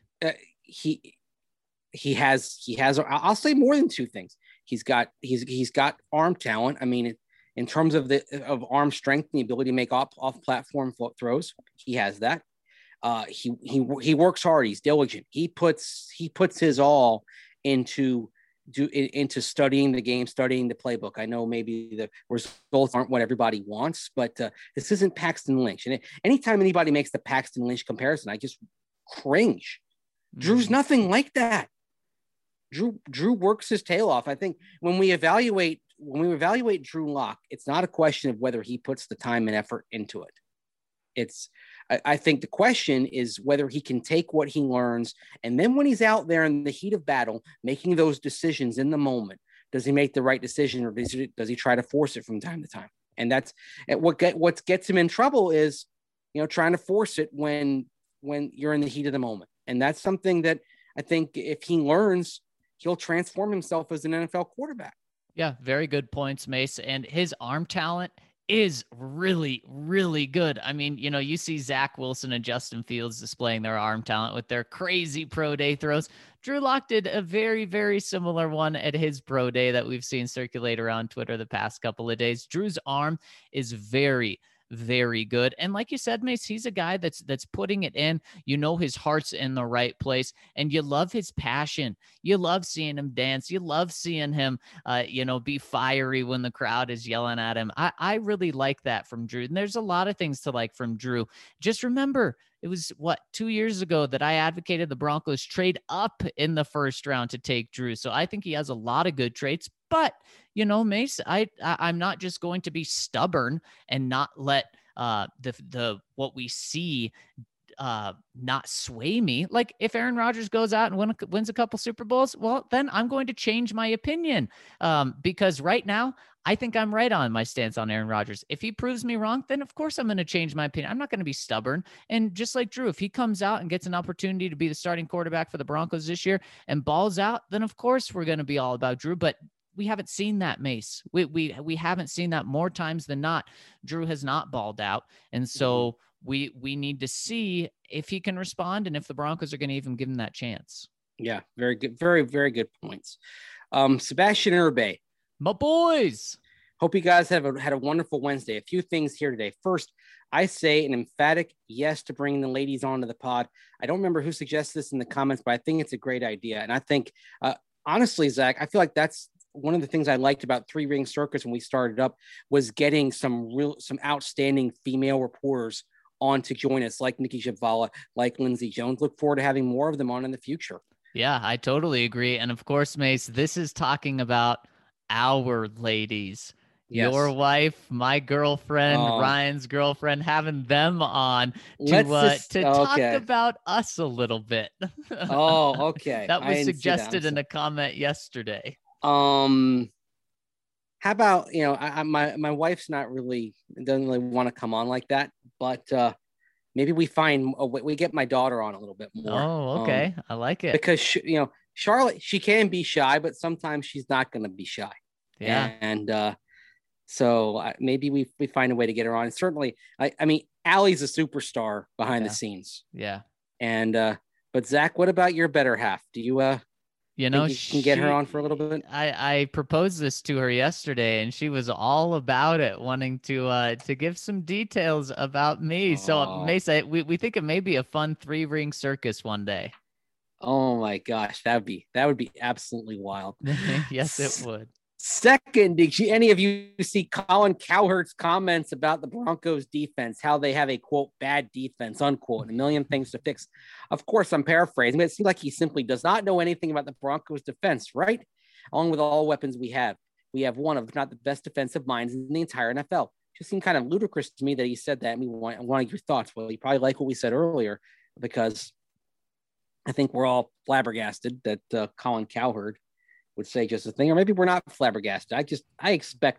He has, I'll say more than 2 things. He's got arm talent. I mean, in terms of arm strength and the ability to make off platform throws, he has that. He works hard. He's diligent. He puts his all into studying the game, studying the playbook. I know maybe the results aren't what everybody wants, but this isn't Paxton Lynch. And anytime anybody makes the Paxton Lynch comparison, I just cringe. Drew's nothing like that. Drew works his tail off. I think when we evaluate Drew Lock, it's not a question of whether he puts the time and effort into it. I think the question is whether he can take what he learns, and then when he's out there in the heat of battle, making those decisions in the moment, does he make the right decision, or does he try to force it from time to time? And that's what gets him in trouble is, trying to force it when you're in the heat of the moment. And that's something that I think if he learns, he'll transform himself as an NFL quarterback. Yeah, very good points, Mace. And his arm talent is really, really good. I mean, you see Zach Wilson and Justin Fields displaying their arm talent with their crazy pro day throws. Drew Lock did a very, very similar one at his pro day that we've seen circulate around Twitter the past couple of days. Drew's arm is very, very good. And like you said, Mace, he's a guy that's putting it in. His heart's in the right place, and you love his passion. You love seeing him dance. You love seeing him, be fiery when the crowd is yelling at him. I really like that from Drew. And there's a lot of things to like from Drew. Just remember, it was 2 years ago that I advocated the Broncos trade up in the first round to take Drew. So I think he has a lot of good traits, but Mace, I'm not just going to be stubborn and not let the what we see not sway me. Like if Aaron Rodgers goes out and wins a couple Super Bowls, well, then I'm going to change my opinion because right now I think I'm right on my stance on Aaron Rodgers. If he proves me wrong, then of course I'm going to change my opinion. I'm not going to be stubborn. And just like Drew, if he comes out and gets an opportunity to be the starting quarterback for the Broncos this year and balls out, then of course we're going to be all about Drew. But we haven't seen that, Mace. We haven't seen that more times than not. Drew has not balled out. And so we need to see if he can respond and if the Broncos are going to even give him that chance. Yeah, very good. Very, very good points. Sebastian Irbay. My boys. Hope you guys had a wonderful Wednesday. A few things here today. First, I say an emphatic yes to bringing the ladies onto the pod. I don't remember who suggested this in the comments, but I think it's a great idea. And I think, honestly, Zach, I feel like that's one of the things I liked about Three Ring Circus when we started up was getting some outstanding female reporters on to join us, like Nikki Javala, like Lindsey Jones. Look forward to having more of them on in the future. Yeah, I totally agree. And of course, Mace, this is talking about our ladies. Yes. Your wife, my girlfriend, Ryan's girlfriend, having them on to talk about us a little bit. Okay. That was suggested in a comment yesterday. How about, my wife's doesn't really want to come on like that, but maybe we get my daughter on a little bit more. Oh, okay. I like it. Because, Charlotte, she can be shy, but sometimes she's not going to be shy. Yeah. And so maybe we find a way to get her on. And certainly, I mean, Allie's a superstar behind the scenes. Yeah. And, but Zach, what about your better half? Do you, think you can get her on for a little bit? I proposed this to her yesterday, and she was all about it, wanting to give some details about me. So Mesa, we think it may be a fun 3-ring circus one day. Oh my gosh, that would be absolutely wild. Yes, it would. Second, did any of you see Colin Cowherd's comments about the Broncos defense, how they have a, quote, bad defense, unquote, and a million things to fix? Of course, I'm paraphrasing, but it seems like he simply does not know anything about the Broncos defense, right? Along with all weapons we have one of, if not the best defensive minds in the entire NFL. Just seemed kind of ludicrous to me that he said that. I want your thoughts. Well, you probably like what we said earlier, because I think we're all flabbergasted that Colin Cowherd would say just a thing, or maybe we're not flabbergasted. I expect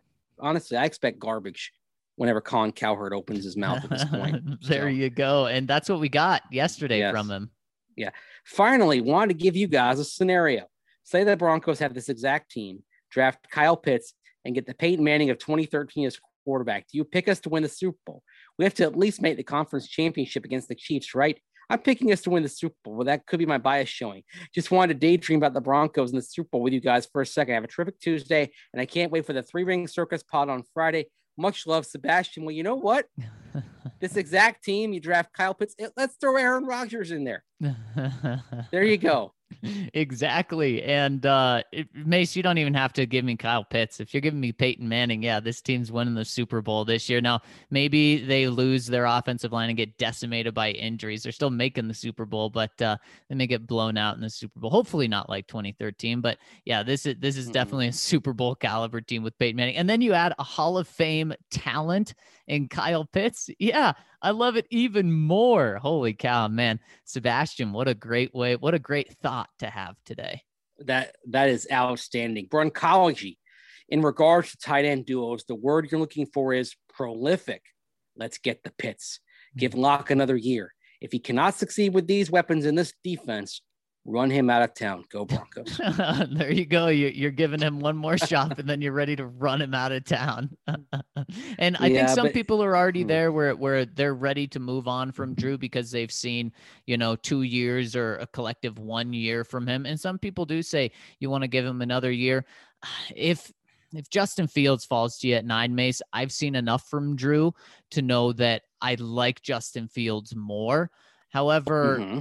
garbage whenever Colin Cowherd opens his mouth at this point. There you go. And that's what we got yesterday from him. Yeah. Finally, wanted to give you guys a scenario. Say the Broncos have this exact team, draft Kyle Pitts, and get the Peyton Manning of 2013 as quarterback. Do you pick us to win the Super Bowl? We have to at least make the conference championship against the Chiefs, right? I'm picking us to win the Super Bowl. Well, that could be my bias showing. Just wanted to daydream about the Broncos and the Super Bowl with you guys for a second. Have a terrific Tuesday, and I can't wait for the 3-ring circus pod on Friday. Much love, Sebastian. Well, you know what? This exact team, you draft Kyle Pitts. Let's throw Aaron Rodgers in there. There you go. Exactly. And Mace, you don't even have to give me Kyle Pitts. If you're giving me Peyton Manning, yeah, this team's winning the Super Bowl this year. Now, maybe they lose their offensive line and get decimated by injuries. They're still making the Super Bowl, but they may get blown out in the Super Bowl. Hopefully not like 2013. But yeah, this is definitely a Super Bowl caliber team with Peyton Manning. And then you add a Hall of Fame talent in Kyle Pitts. Yeah, I love it even more. Holy cow, man. Sebastian, what a great thought to have today. That is outstanding. Broncology. In regards to tight end duos, the word you're looking for is prolific. Let's get the Pitts. Give Locke another year. If he cannot succeed with these weapons in this defense, run him out of town. Go Broncos. There you go. You're giving him one more shot, and then you're ready to run him out of town. And I think some people are already there where they're ready to move on from Drew because they've seen, 2 years or a collective 1 year from him. And some people do say you want to give him another year. If Justin Fields falls to you at 9, Mace, I've seen enough from Drew to know that I like Justin Fields more. However,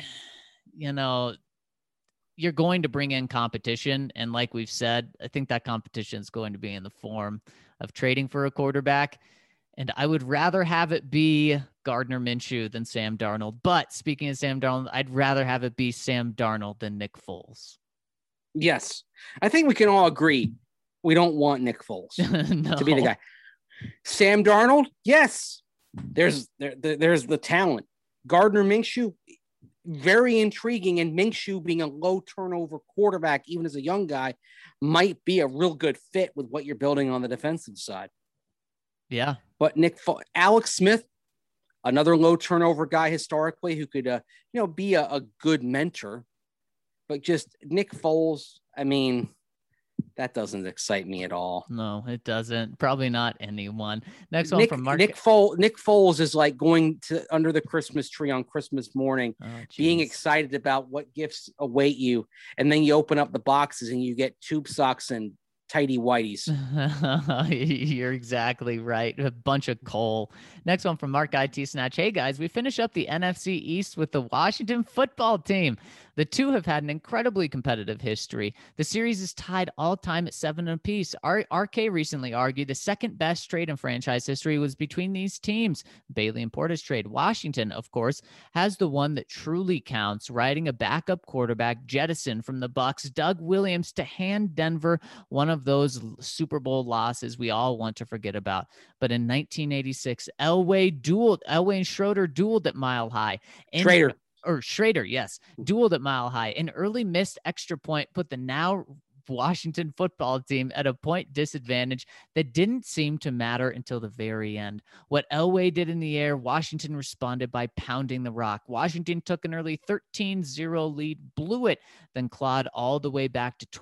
you're going to bring in competition. And like we've said, I think that competition is going to be in the form of trading for a quarterback. And I would rather have it be Gardner Minshew than Sam Darnold. But speaking of Sam Darnold, I'd rather have it be Sam Darnold than Nick Foles. Yes. I think we can all agree we don't want Nick Foles to be the guy. Sam Darnold, yes. There's the talent. Gardner Minshew, very intriguing, and Minshew being a low turnover quarterback, even as a young guy, might be a real good fit with what you're building on the defensive side. Yeah. But Alex Smith, another low turnover guy historically who could, be a good mentor, but just Nick Foles, I mean, that doesn't excite me at all. No, it doesn't. Probably not anyone. Next one from Mark. Nick Foles is like going to under the Christmas tree on Christmas morning, being excited about what gifts await you. And then you open up the boxes and you get tube socks and tidy whiteys. You're exactly right. A bunch of coal. Next one from Mark IT Snatch. Hey guys, we finish up the NFC East with the Washington football team. The two have had an incredibly competitive history. The series is tied all time at 7 apiece. RK recently argued the second best trade in franchise history was between these teams. Bailey and Portis trade. Washington, of course, has the one that truly counts, riding a backup quarterback jettison from the Bucs, Doug Williams, to hand Denver one of those Super Bowl losses we all want to forget about. But in 1986, Elway and Schroeder dueled at Mile High. Schrader, yes, dueled at Mile High. An early missed extra point put the now Washington football team at a point disadvantage that didn't seem to matter until the very end. What Elway did in the air, Washington responded by pounding the rock. Washington took an early 13-0 lead, blew it, then clawed all the way back to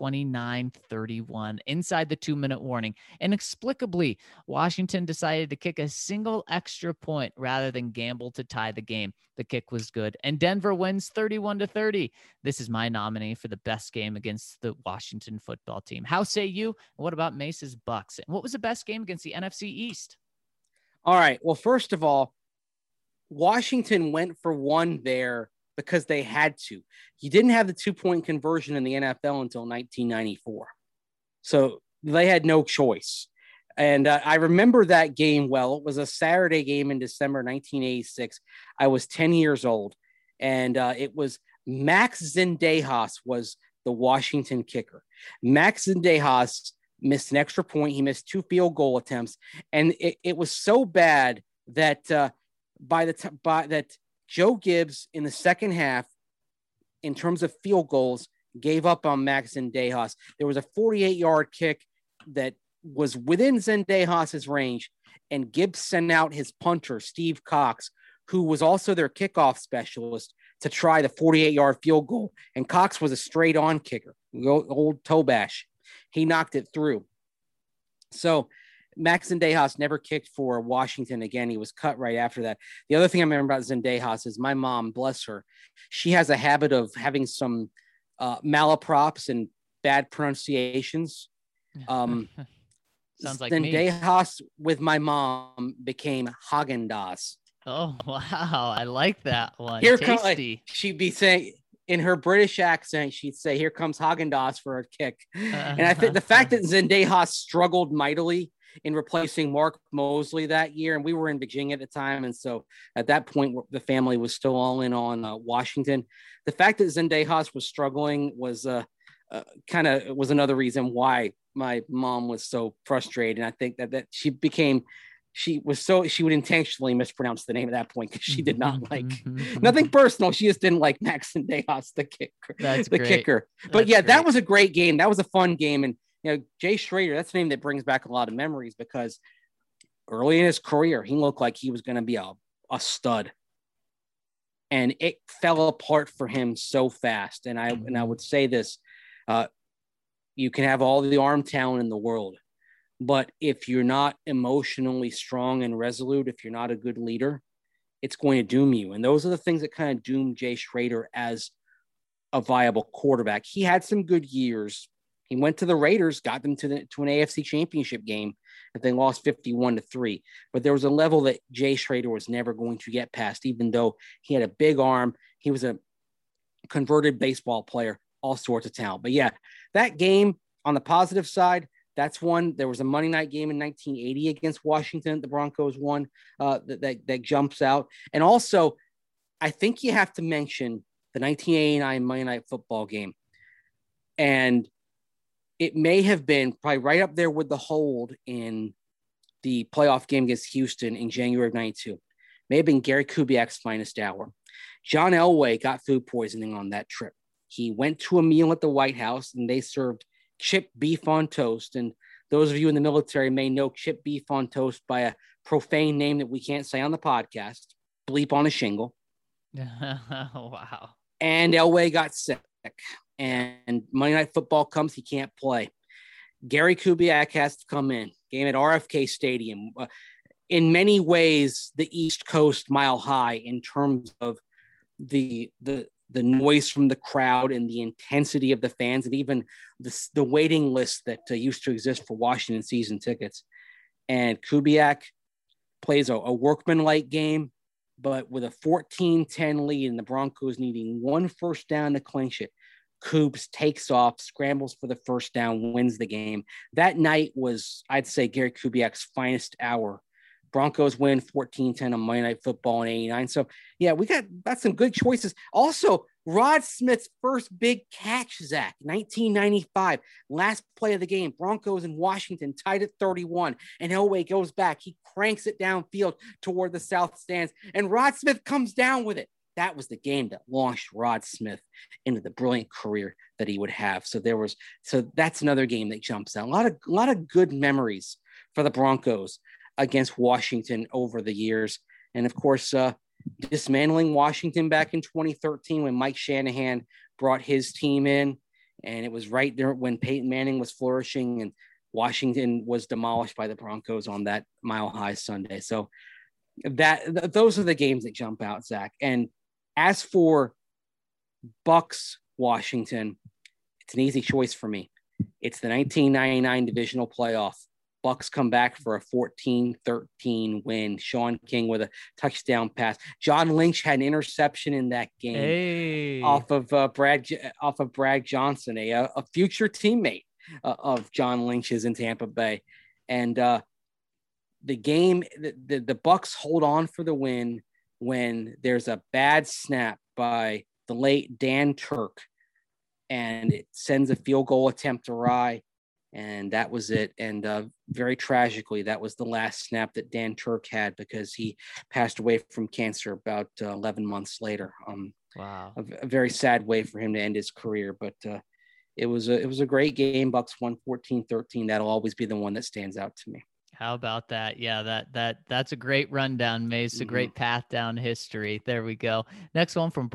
29-31 inside the 2-minute warning. Inexplicably, Washington decided to kick a single extra point rather than gamble to tie the game. The kick was good, and Denver wins 31-30. This is my nominee for the best game against the Washington football team. How say you? What about Mace's Bucks? And what was the best game against the NFC East? All right. Well, first of all, Washington went for one there because they had to. You didn't have the 2-point conversion in the NFL until 1994. So they had no choice. And I remember that game well. It was a Saturday game in December 1986. I was 10 years old, and it was Max Zendejas was the Washington kicker. Max Zendejas missed an extra point. He missed 2 field goal attempts, and it was so bad that that Joe Gibbs in the second half, in terms of field goals, gave up on Max Zendejas. There was a 48-yard kick that was within Zendejas' range, and Gibbs sent out his punter, Steve Cox, who was also their kickoff specialist, to try the 48-yard field goal. And Cox was a straight-on kicker, old Tobash. He knocked it through. So Max Zendejas never kicked for Washington again. He was cut right after that. The other thing I remember about Zendejas is my mom, bless her, she has a habit of having some malaprops and bad pronunciations. Sounds like Zendejas with my mom became Haagen-Dazs. Oh, wow. I like that one. Here Tasty. She'd be saying, in her British accent, she'd say, "Here comes Haagen-Dazs for a kick." And I think the fact that Zendejas struggled mightily in replacing Mark Mosley that year, and we were in Virginia at the time, and so at that point, the family was still all in on Washington. The fact that Zendejas was struggling was kind of was another reason why my mom was so frustrated. And I think that she would intentionally mispronounce the name at that point because she did not like nothing personal. She just didn't like Max Zendejas, the kicker. But yeah, that was a great game. That was a fun game. And, Jay Schroeder, that's a name that brings back a lot of memories because early in his career, he looked like he was going to be a stud. And it fell apart for him so fast. And I would say this, you can have all the arm talent in the world, but if you're not emotionally strong and resolute, if you're not a good leader, it's going to doom you. And those are the things that kind of doomed Jay Schroeder as a viable quarterback. He had some good years. He went to the Raiders, got them to an AFC championship game, and they lost 51-3. But there was a level that Jay Schroeder was never going to get past, even though he had a big arm. He was a converted baseball player, all sorts of talent. But yeah, that game on the positive side, that's one. There was a Monday night game in 1980 against Washington. The Broncos won that jumps out. And also, I think you have to mention the 1989 Monday Night Football game. And it may have been probably right up there with the hold in the playoff game against Houston in January of 92. May have been Gary Kubiak's finest hour. John Elway got food poisoning on that trip. He went to a meal at the White House and they served chipped beef on toast. And those of you in the military may know chipped beef on toast by a profane name that we can't say on the podcast, bleep on a shingle. Wow. And Elway got sick. And Monday Night Football comes, he can't play. Gary Kubiak has to come in. Game at RFK Stadium. In many ways, the East Coast Mile High in terms of the noise from the crowd and the intensity of the fans, and even the waiting list that used to exist for Washington season tickets. And Kubiak plays a workmanlike game, but with a 14-10 lead and the Broncos needing one first down to clinch it, Coobs takes off, scrambles for the first down, wins the game. That night was, I'd say, Gary Kubiak's finest hour. Broncos win 14-10 on Monday Night Football in 89. So, yeah, we got some good choices. Also, Rod Smith's first big catch, Zach, 1995, last play of the game. Broncos in Washington tied at 31, and Elway goes back. He cranks it downfield toward the south stands, and Rod Smith comes down with it. That was the game that launched Rod Smith into the brilliant career that he would have. So that's another game that jumps out. A lot of good memories for the Broncos against Washington over the years. And of course, dismantling Washington back in 2013 when Mike Shanahan brought his team in, and it was right there when Peyton Manning was flourishing and Washington was demolished by the Broncos on that Mile High Sunday. So those are the games that jump out, Zach. And as for Bucks Washington, it's an easy choice for me. It's the 1999 divisional playoff. Bucks come back for a 14-13 win. Sean King with a touchdown pass. John Lynch had an interception in that game off of Brad Johnson, a future teammate of John Lynch's in Tampa Bay. And the game, the Bucks hold on for the win when there's a bad snap by the late Dan Turk, and it sends a field goal attempt awry. And that was it. And very tragically, that was the last snap that Dan Turk had because he passed away from cancer about 11 months later. Wow. A very sad way for him to end his career. But it was a great game. Bucks won 14-13. That'll always be the one that stands out to me. How about that? Yeah, that's a great rundown, Mace. A great path down history. There we go. Next one from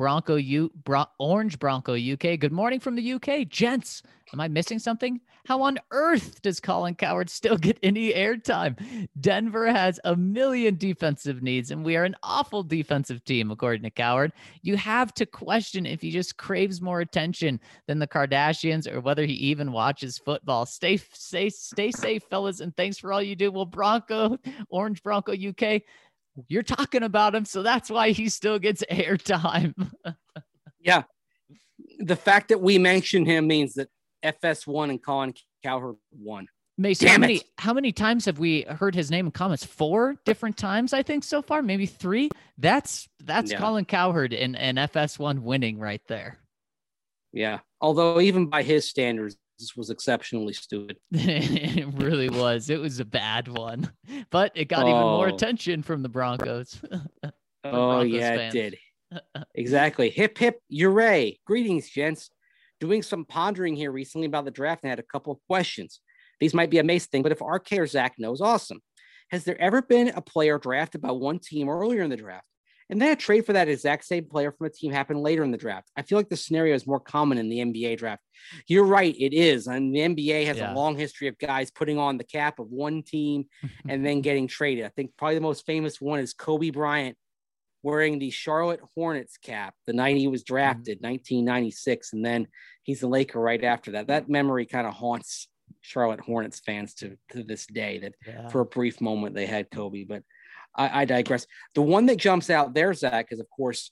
Orange Bronco UK. Good morning from the UK, gents. Am I missing something? How on earth does Colin Cowherd still get any airtime? Denver has a million defensive needs, and we are an awful defensive team, according to Cowherd. You have to question if he just craves more attention than the Kardashians or whether he even watches football. Stay safe, fellas, and thanks for all you do. Well, Orange Bronco UK, you're talking about him, so that's why he still gets airtime. Yeah. the fact that we mentioned him means that FS1 and Colin Cowherd won. Mason, how many times have we heard his name in comments? 4 different times, I think, so far, maybe 3. That's Colin Cowherd and FS1 winning right there. Yeah. Although even by his standards, this was exceptionally stupid. It really was. It was a bad one, but it got even more attention from the Broncos. Broncos fans. It did. Exactly. Hip, hip, hooray. Greetings, gents. Doing some pondering here recently about the draft and had a couple of questions. These might be a Mace thing, but if RK or Zach knows, awesome. Has there ever been a player drafted by one team earlier in the draft, and then a trade for that exact same player from a team happened later in the draft? I feel like the scenario is more common in the NBA draft. You're right, it is. And the NBA has a long history of guys putting on the cap of one team and then getting traded. I think probably the most famous one is Kobe Bryant wearing the Charlotte Hornets cap the night he was drafted, 1996, and then he's a Laker right after that. That memory kind of haunts Charlotte Hornets fans to this day, that for a brief moment they had Kobe, but I digress. The one that jumps out there, Zach, is of course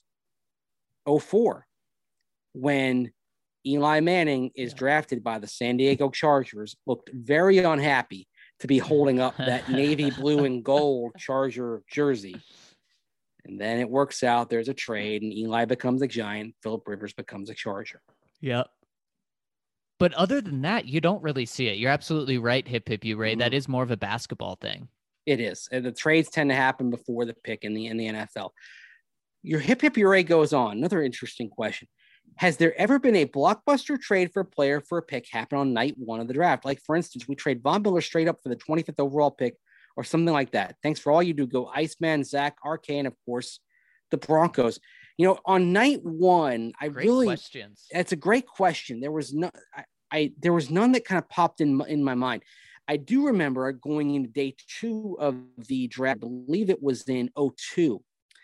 2004, when Eli Manning is drafted by the San Diego Chargers, looked very unhappy to be holding up that navy blue and gold Charger jersey. And then it works out. There's a trade, and Eli becomes a Giant. Phillip Rivers becomes a Charger. Yep. But other than that, you don't really see it. You're absolutely right, hip hip you, Ray. Mm-hmm. That is more of a basketball thing. It is. And the trades tend to happen before the pick in the NFL. Your hip hip hooray goes on. Another interesting question. Has there ever been a blockbuster trade for a player for a pick happen on night 1 of the draft? Like, for instance, we trade Von Miller straight up for the 25th overall pick or something like that. Thanks for all you do. Go Iceman, Zach, RK, and of course, the Broncos. You know, on night 1, questions. It's a great question. There was there was none that kind of popped in my mind. I do remember going into day 2 of the draft. I believe it was in 2002,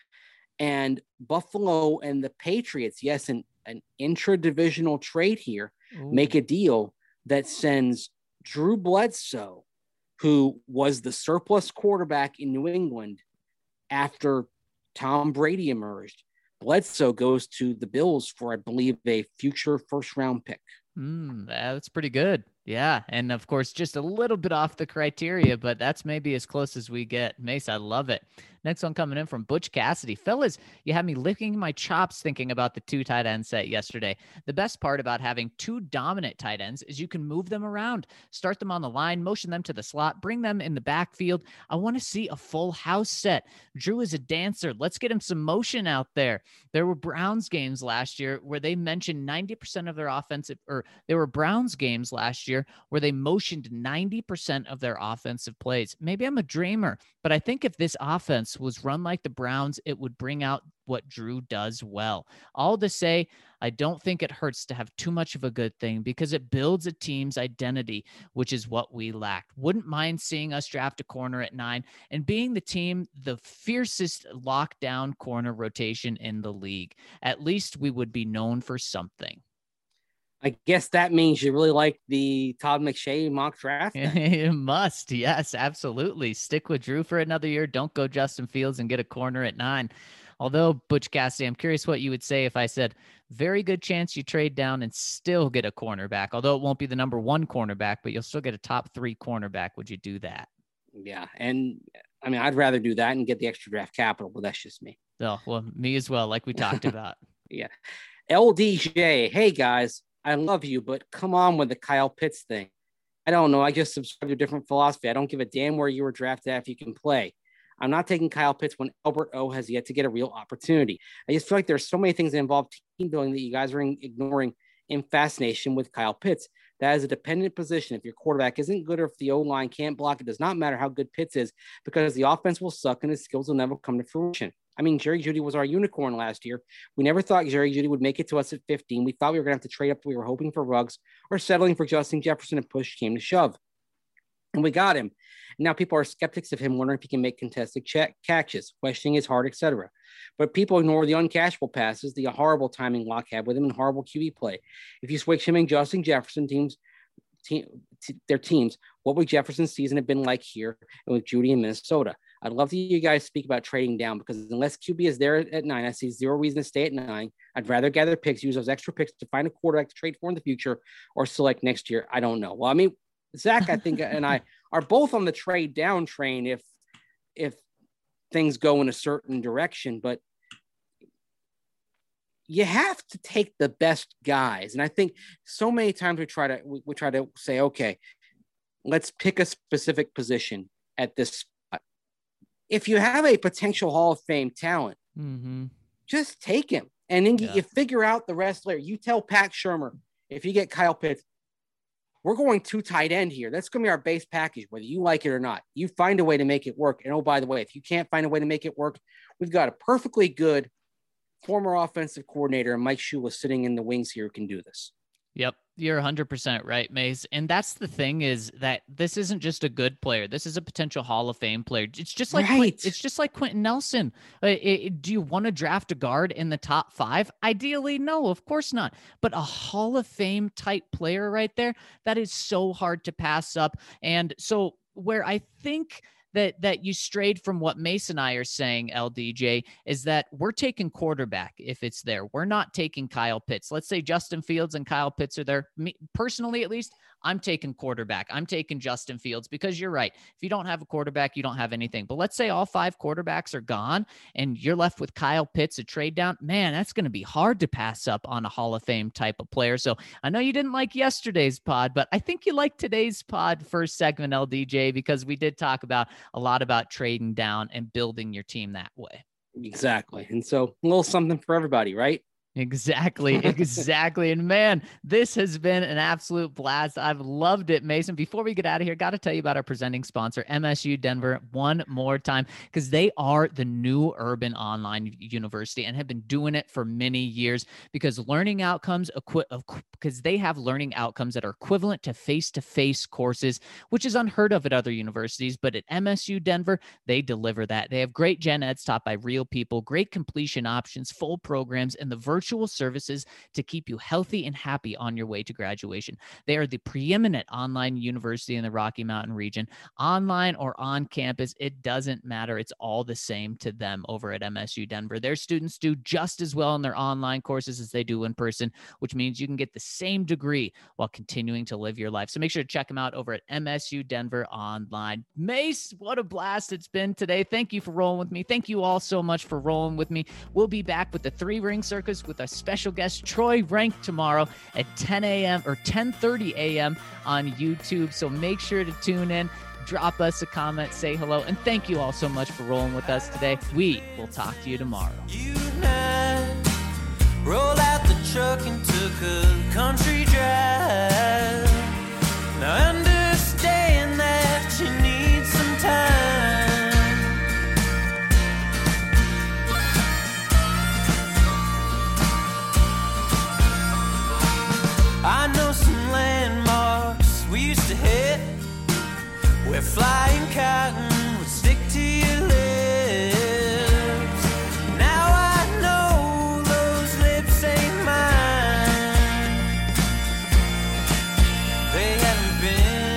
and Buffalo and the Patriots. Yes, an intra-divisional trade here. Ooh. Make a deal that sends Drew Bledsoe, who was the surplus quarterback in New England after Tom Brady emerged. Bledsoe goes to the Bills for, I believe, a future first-round pick. That's pretty good. Yeah. And of course, just a little bit off the criteria, but that's maybe as close as we get. Mace, I love it. Next one coming in from Butch Cassidy. Fellas, you had me licking my chops thinking about the 2 tight end set yesterday. The best part about having 2 dominant tight ends is you can move them around, start them on the line, motion them to the slot, bring them in the backfield. I want to see a full house set. Drew is a dancer. Let's get him some motion out there. There were Browns games last year where they mentioned 90% of their offensive, or there were Browns games last year where they motioned 90% of their offensive plays. Maybe I'm a dreamer, but I think if this offense was run like the Browns, it would bring out what Drew does well. All to say, I don't think it hurts to have too much of a good thing because it builds a team's identity, which is what we lacked. Wouldn't mind seeing us draft a corner at 9 and being the team, the fiercest lockdown corner rotation in the league. At least we would be known for something. I guess that means you really like the Todd McShay mock draft. It must. Yes, absolutely. Stick with Drew for another year. Don't go Justin Fields and get a corner at 9. Although, Butch Cassidy, I'm curious what you would say if I said, very good chance you trade down and still get a cornerback. Although it won't be the number 1 cornerback, but you'll still get a top 3 cornerback. Would you do that? Yeah. And I mean, I'd rather do that and get the extra draft capital, but that's just me. Oh, well, me as well, like we talked about. Yeah. LDJ. Hey, guys. I love you, but come on with the Kyle Pitts thing. I don't know. I just subscribe to a different philosophy. I don't give a damn where you were drafted at if you can play. I'm not taking Kyle Pitts when Albert O has yet to get a real opportunity. I just feel like there's so many things that involve team building that you guys are ignoring in fascination with Kyle Pitts. That is a dependent position. If your quarterback isn't good or if the O-line can't block, it does not matter how good Pitts is because the offense will suck and his skills will never come to fruition. I mean, Jerry Jeudy was our unicorn last year. We never thought Jerry Jeudy would make it to us at 15. We thought we were going to have to trade up. We were hoping for Ruggs or settling for Justin Jefferson and push came to shove. And we got him. Now people are skeptics of him, wondering if he can make contested catches, questioning his heart, etc. But people ignore the uncashable passes, the horrible timing Locke had with him, and horrible QB play. If you switch him and Justin Jefferson their teams, what would Jefferson's season have been like here and with Jeudy in Minnesota? I'd love to hear you guys speak about trading down, because unless QB is there at 9, I see zero reason to stay at 9. I'd rather gather picks, use those extra picks to find a quarterback to trade for in the future or select next year. I don't know. Well, I mean, Zach, I think, and I are both on the trade down train if things go in a certain direction, but you have to take the best guys. And I think so many times we try to say, okay, let's pick a specific position at this spot. If you have a potential Hall of Fame talent, just take him. And then you figure out the rest later. You tell Pat Shurmur, if you get Kyle Pitts, we're going 2 tight end here. That's going to be our base package, whether you like it or not. You find a way to make it work. And oh, by the way, if you can't find a way to make it work, we've got a perfectly good former offensive coordinator and Mike Shula sitting in the wings here who can do this. Yep. You're 100% right, Mace. And that's the thing, is that this isn't just a good player. This is a potential Hall of Fame player. It's just like, it's just like Quentin Nelson. Do you want to draft a guard in the top 5? Ideally, no, of course not. But a Hall of Fame type player right there, that is so hard to pass up. And so where I think that you strayed from what Mace and I are saying, LDJ, is that we're taking quarterback if it's there. We're not taking Kyle Pitts. Let's say Justin Fields and Kyle Pitts are there. Me, personally, at least, I'm taking quarterback. I'm taking Justin Fields, because you're right. If you don't have a quarterback, you don't have anything. But let's say all 5 quarterbacks are gone and you're left with Kyle Pitts, a trade down. Man, that's going to be hard to pass up on a Hall of Fame type of player. So I know you didn't like yesterday's pod, but I think you liked today's pod first segment, LDJ, because we did talk about a lot about trading down and building your team that way. Exactly. And so a little something for everybody, right? Exactly. And man, this has been an absolute blast. I've loved it, Mason. Before we get out of here, got to tell you about our presenting sponsor, MSU Denver, one more time, because they are the new urban online university and have been doing it for many years, because learning outcomes, because they have learning outcomes that are equivalent to face-to-face courses, which is unheard of at other universities. But at MSU Denver, they deliver that. They have great gen eds taught by real people, great completion options, full programs, and the virtual services to keep you healthy and happy on your way to graduation. They are the preeminent online university in the Rocky Mountain region. Online or on campus, it doesn't matter. It's all the same to them over at MSU Denver. Their students do just as well in their online courses as they do in person, which means you can get the same degree while continuing to live your life. So make sure to check them out over at MSU Denver Online. Mace, what a blast it's been today. Thank you for rolling with me. Thank you all so much for rolling with me. We'll be back with the 3-Ring Circus with our special guest Troy Rank tomorrow at 10 a.m. or 10:30 a.m. on YouTube. So make sure to tune in, drop us a comment, say hello, and thank you all so much for rolling with us today. We will talk to you tomorrow. You and I rolled out the truck and took a country drive. Now understand that you need some time. I know some landmarks we used to hit, where flying cotton would stick to your lips. Now I know those lips ain't mine. They haven't been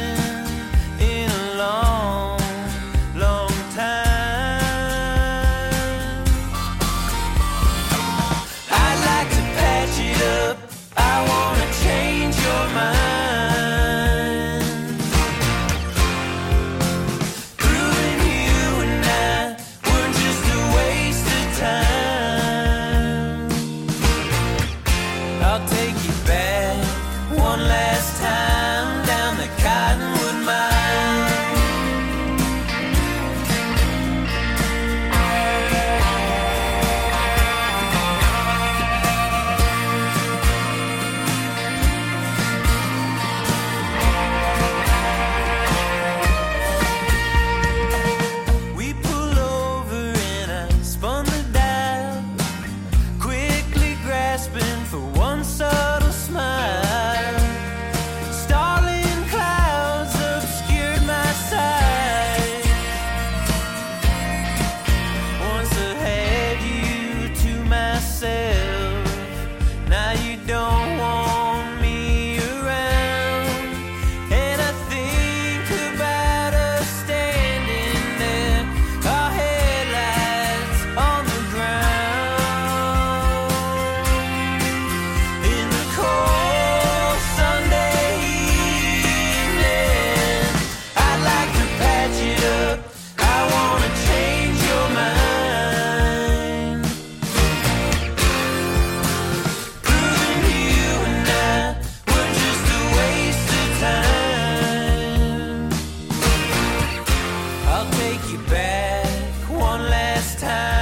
best time.